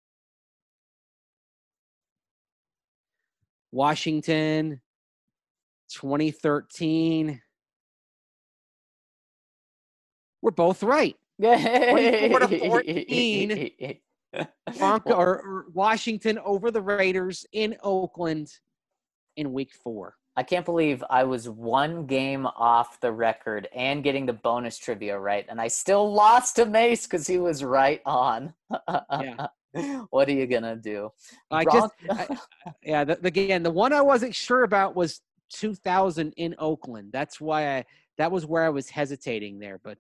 C: Washington, 2013. We're both right. 24 to 14. or Washington over the Raiders in Oakland in week 4.
A: I can't believe I was one game off the record and getting the bonus trivia right, and I still lost to Mace because he was right on.
C: Yeah.
A: What are you gonna do?
C: The one I wasn't sure about was 2000 in Oakland. That's why that was where I was hesitating there. But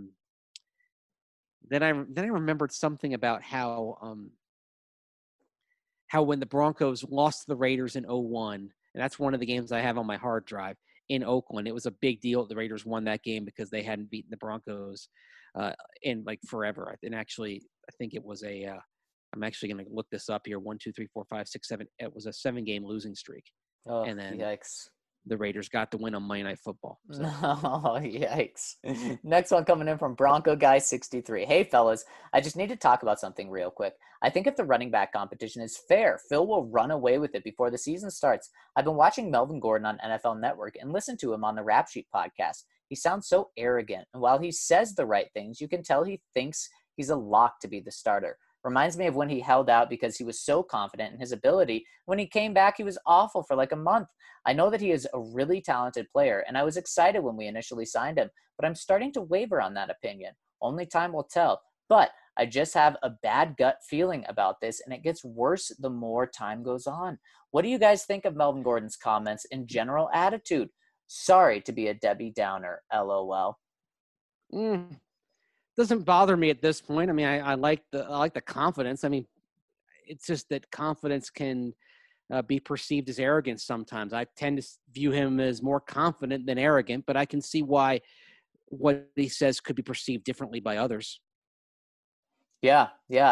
C: then I remembered something about how when the Broncos lost to the Raiders in 01, and that's one of the games I have on my hard drive in Oakland. It was a big deal that the Raiders won that game because they hadn't beaten the Broncos in like forever. And actually, I think it was I'm actually going to look this up here. 1, 2, 3, 4, 5, 6, 7. It was a 7-game losing streak.
A: Oh,
C: and then
A: yikes.
C: The Raiders got the win on Monday Night Football. So.
A: Oh, yikes. Next one coming in from Bronco Guy 63. Hey, fellas, I just need to talk about something real quick. I think if the running back competition is fair, Phil will run away with it before the season starts. I've been watching Melvin Gordon on NFL Network and listened to him on the Rap Sheet podcast. He sounds so arrogant, and while he says the right things, you can tell he thinks he's a lock to be the starter. Reminds me of when he held out because he was so confident in his ability. When he came back, he was awful for like a month. I know that he is a really talented player, and I was excited when we initially signed him, but I'm starting to waver on that opinion. Only time will tell. But I just have a bad gut feeling about this, and it gets worse the more time goes on. What do you guys think of Melvin Gordon's comments and general attitude? Sorry to be a Debbie Downer, LOL.
C: Doesn't bother me at this point. I mean, I like the confidence. I mean, it's just that confidence can be perceived as arrogance sometimes. I tend to view him as more confident than arrogant, but I can see why what he says could be perceived differently by others.
A: Yeah.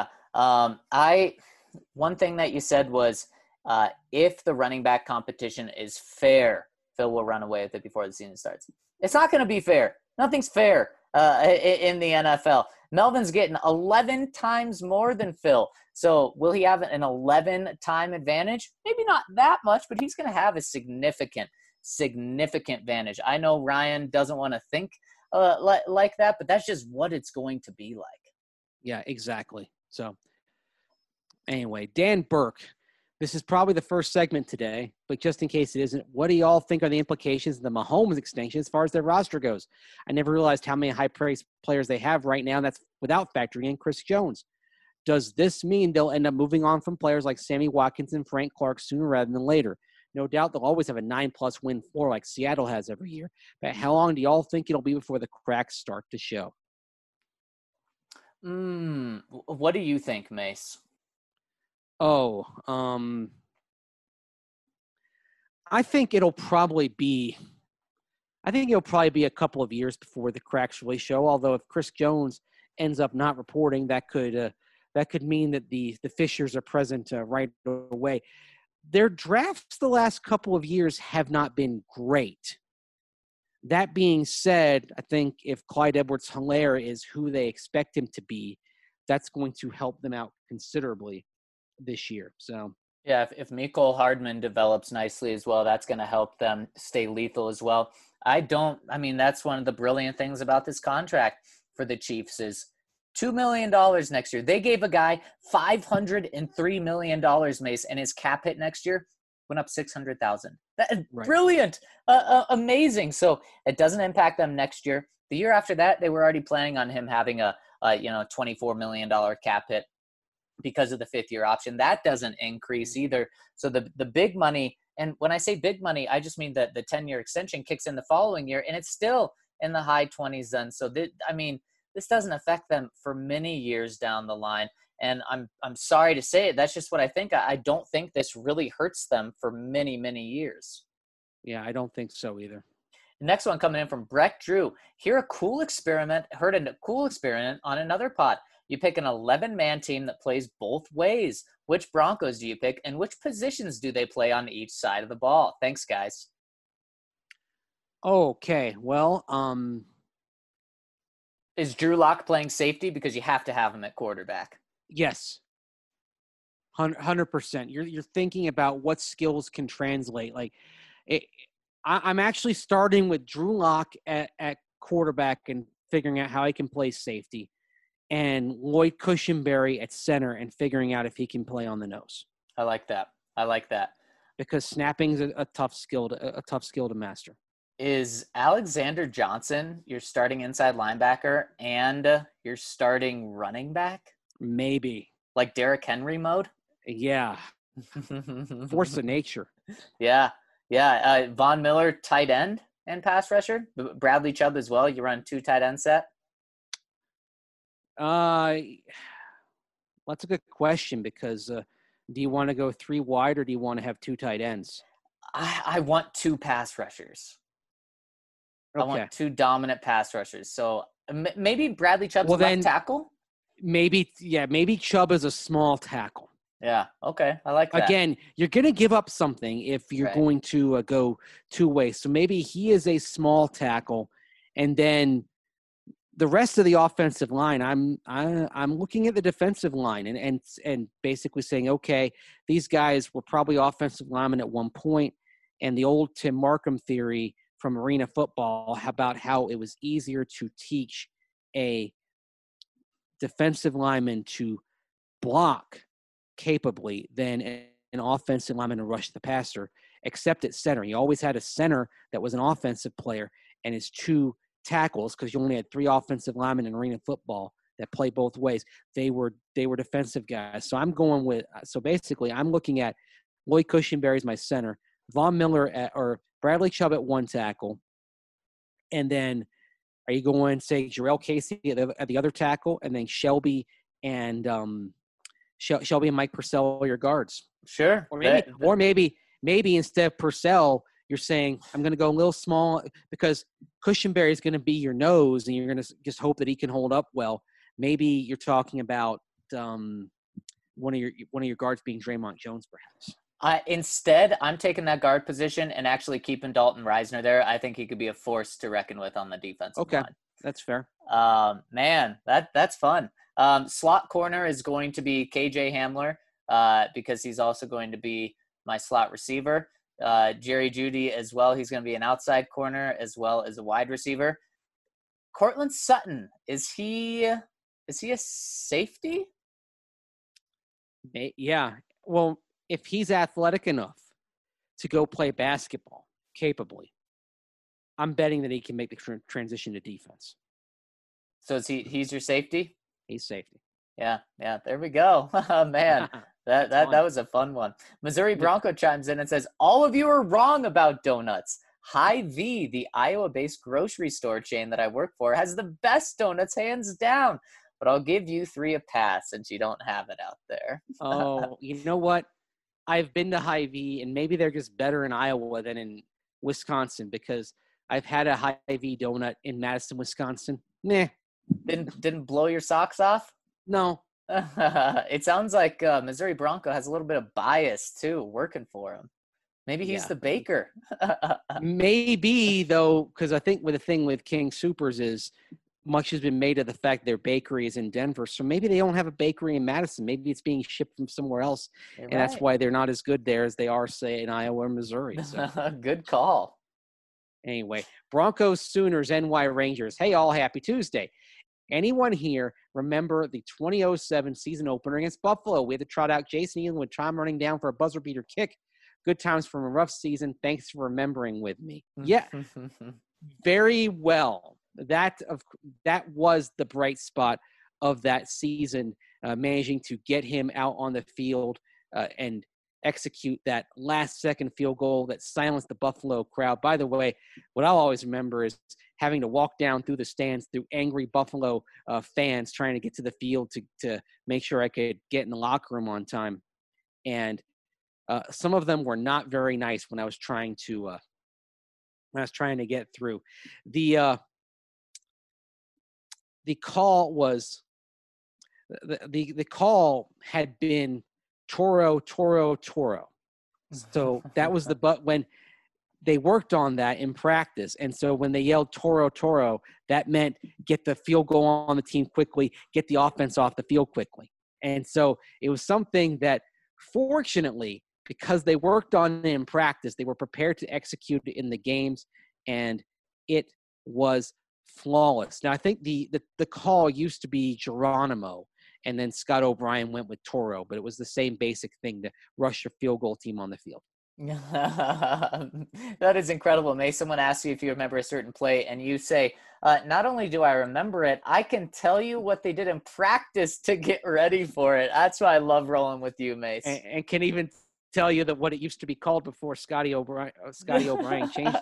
A: One thing that you said was if the running back competition is fair, Phil will run away with it before the season starts. It's not going to be fair. Nothing's fair in the NFL. Melvin's getting 11 times more than Phil. So will he have an 11-time advantage? Maybe not that much, but he's going to have a significant advantage. I know Ryan doesn't want to think like that, but that's just what it's going to be like.
C: Yeah, exactly. So anyway, Dan Burke, this is probably the first segment today, but just in case it isn't, what do y'all think are the implications of the Mahomes extension as far as their roster goes? I never realized how many high-priced players they have right now, and that's without factoring in Chris Jones. Does this mean they'll end up moving on from players like Sammy Watkins and Frank Clark sooner rather than later? No doubt they'll always have a 9+ win floor like Seattle has every year, but how long do y'all think it'll be before the cracks start to show?
A: What do you think, Mace?
C: I think it'll probably be a couple of years before the cracks really show. Although if Chris Jones ends up not reporting, that could mean that the fissures are present right away. Their drafts the last couple of years have not been great. That being said, I think if Clyde Edwards-Helaire is who they expect him to be, that's going to help them out considerably this year. So
A: yeah, if Mecole Hardman develops nicely as well, that's going to help them stay lethal as well. That's one of the brilliant things about this contract for the Chiefs is $2 million next year. They gave a guy $503 million, Mace, and his cap hit next year went up $600,000. Right. Brilliant. Amazing. So it doesn't impact them next year. The year after that, they were already planning on him having a $24 million cap hit because of the 5th-year option. That doesn't increase either. So the big money, and when I say big money, I just mean that the 10-year extension kicks in the following year, and it's still in the high 20s then. So this doesn't affect them for many years down the line. And I'm sorry to say it. That's just what I think. I don't think this really hurts them for many, many years.
C: Yeah, I don't think so either.
A: The next one coming in from Brett Drew. Heard a cool experiment on another pod. You pick an 11-man team that plays both ways. Which Broncos do you pick, and which positions do they play on each side of the ball? Thanks, guys.
C: Okay, well,
A: is Drew Lock playing safety because you have to have him at quarterback?
C: Yes, 100%. You're thinking about what skills can translate. I'm actually starting with Drew Lock at quarterback and figuring out how he can play safety, and Lloyd Cushenberry at center and figuring out if he can play on the nose.
A: I like that.
C: Because snapping is a tough skill to master.
A: Is Alexander Johnson your starting inside linebacker and your starting running back?
C: Maybe.
A: Like Derrick Henry mode?
C: Yeah. Force of nature.
A: Yeah. Von Miller, tight end and pass rusher. Bradley Chubb as well. You run 2 tight end set?
C: That's a good question because do you want to go 3 wide or do you want to have 2 tight ends?
A: I want 2 pass rushers. Okay. I want 2 dominant pass rushers. So maybe Bradley Chubb's left tackle?
C: Maybe Chubb is a small tackle.
A: Yeah, okay. I like that.
C: Again, you're going to give up something if you're going to go 2 ways. So maybe he is a small tackle, and then the rest of the offensive line, I'm looking at the defensive line and basically saying, okay, these guys were probably offensive linemen at one point, and the old Tim Markham theory from Arena Football about how it was easier to teach a defensive lineman to block capably than an offensive lineman to rush the passer, except at center. You always had a center that was an offensive player and his 2 tackles, because you only had 3 offensive linemen in Arena Football, that play both ways. They were defensive guys. So I'm going with – so basically I'm looking at Lloyd Cushenberry as my center, Von Miller or Bradley Chubb at one tackle, and then are you going, say, Jarrell Casey at the other tackle, and then Shelby and Mike Purcell are your guards?
A: Sure.
C: Or maybe instead of Purcell, you're saying I'm going to go a little small because Cushenberry is going to be your nose, and you're going to just hope that he can hold up well. Maybe you're talking about one of your guards being Draymond Jones, perhaps.
A: Instead, I'm taking that guard position and actually keeping Dalton Reisner there. I think he could be a force to reckon with on the defensive line.
C: That's fair.
A: Man, that's fun. Slot corner is going to be KJ Hamler because he's also going to be my slot receiver. Jerry Jeudy as well. He's going to be an outside corner as well as a wide receiver. Courtland Sutton, is he a safety?
C: Yeah. Well, if he's athletic enough to go play basketball capably, I'm betting that he can make the transition to defense.
A: So he's your safety?
C: He's safety.
A: Yeah. There we go. Man, that was a fun one. Missouri Bronco chimes in and says, all of you are wrong about donuts. Hy-Vee, the Iowa-based grocery store chain that I work for, has the best donuts hands down. But I'll give you 3 a pass since you don't have it out there.
C: Oh, you know what? I've been to Hy-Vee, and maybe they're just better in Iowa than in Wisconsin because I've had a Hy-Vee donut in Madison, Wisconsin. Nah.
A: Didn't blow your socks off?
C: No.
A: It sounds like Missouri Bronco has a little bit of bias, too, working for him. Maybe he's the baker.
C: Maybe, though, because I think the thing with King Soopers is much has been made of the fact their bakery is in Denver. So maybe they don't have a bakery in Madison. Maybe it's being shipped from somewhere else.
A: You're
C: and
A: right.
C: That's why they're not as good there as they are, say, in Iowa or Missouri. So.
A: Good call.
C: Anyway, Broncos, Sooners, NY Rangers. Hey, all, happy Tuesday. Anyone here remember the 2007 season opener against Buffalo? We had to trot out Jason Elam with time running down for a buzzer beater kick. Good times from a rough season. Thanks for remembering with me. Yeah, very well. That was the bright spot of that season, managing to get him out on the field and execute that last-second field goal that silenced the Buffalo crowd. By the way, what I'll always remember is having to walk down through the stands through angry Buffalo fans trying to get to the field to make sure I could get in the locker room on time. And some of them were not very nice when I was trying to get through. The call was the call had been Toro. So that was but when they worked on that in practice. And so when they yelled Toro, that meant get the field goal on the team quickly, get the offense off the field quickly. And so it was something that fortunately, because they worked on it in practice, they were prepared to execute it in the games, and it was flawless. Now, I think the call used to be Geronimo, and then Scott O'Brien went with Toro, but it was the same basic thing to rush your field goal team on the field.
A: That is incredible. May someone ask you if you remember a certain play, and you say, not only do I remember it, I can tell you what they did in practice to get ready for it. That's why I love rolling with you, Mace.
C: And can even tell you that what it used to be called before Scotty O'Brien changed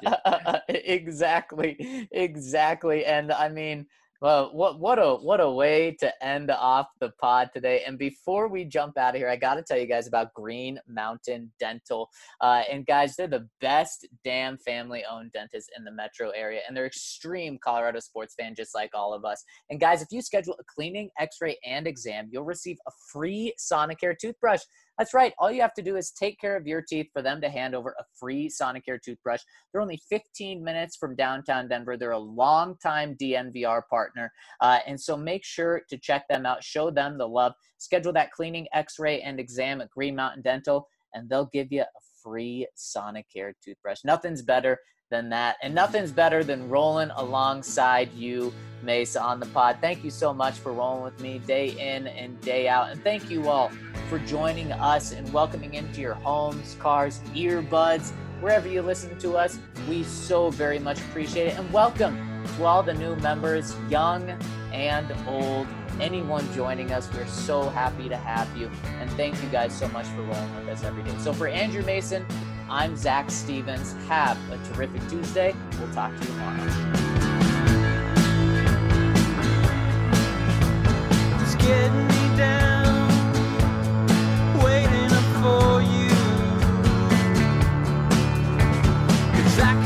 C: it. Exactly. And I mean, well, what a way to end off the pod today. And before we jump out of here, I got to tell you guys about Green Mountain Dental. And guys, they're the best damn family-owned dentist in the metro area, and they're extreme Colorado sports fan, just like all of us. And guys, if you schedule a cleaning, x-ray, and exam, you'll receive a free Sonicare toothbrush. That's right. All you have to do is take care of your teeth for them to hand over a free Sonicare toothbrush. They're only 15 minutes from downtown Denver. They're a longtime DNVR partner. And so make sure to check them out. Show them the love. Schedule that cleaning, x-ray, and exam at Green Mountain Dental, and they'll give you a free Sonicare toothbrush. Nothing's better than that. And nothing's better than rolling alongside you, Mesa, on the pod. Thank you so much for rolling with me day in and day out. And thank you all for joining us and welcoming into your homes, cars, earbuds, wherever you listen to us. We so very much appreciate it. And welcome to all the new members, young
A: and old, anyone joining us. We're so happy to have you. And thank you guys so much for rolling with us every day. So for Andrew Mason, I'm Zach Stevens. Have a terrific Tuesday. We'll talk to you tomorrow.
B: It's getting me down, waiting up for you. 'Cause I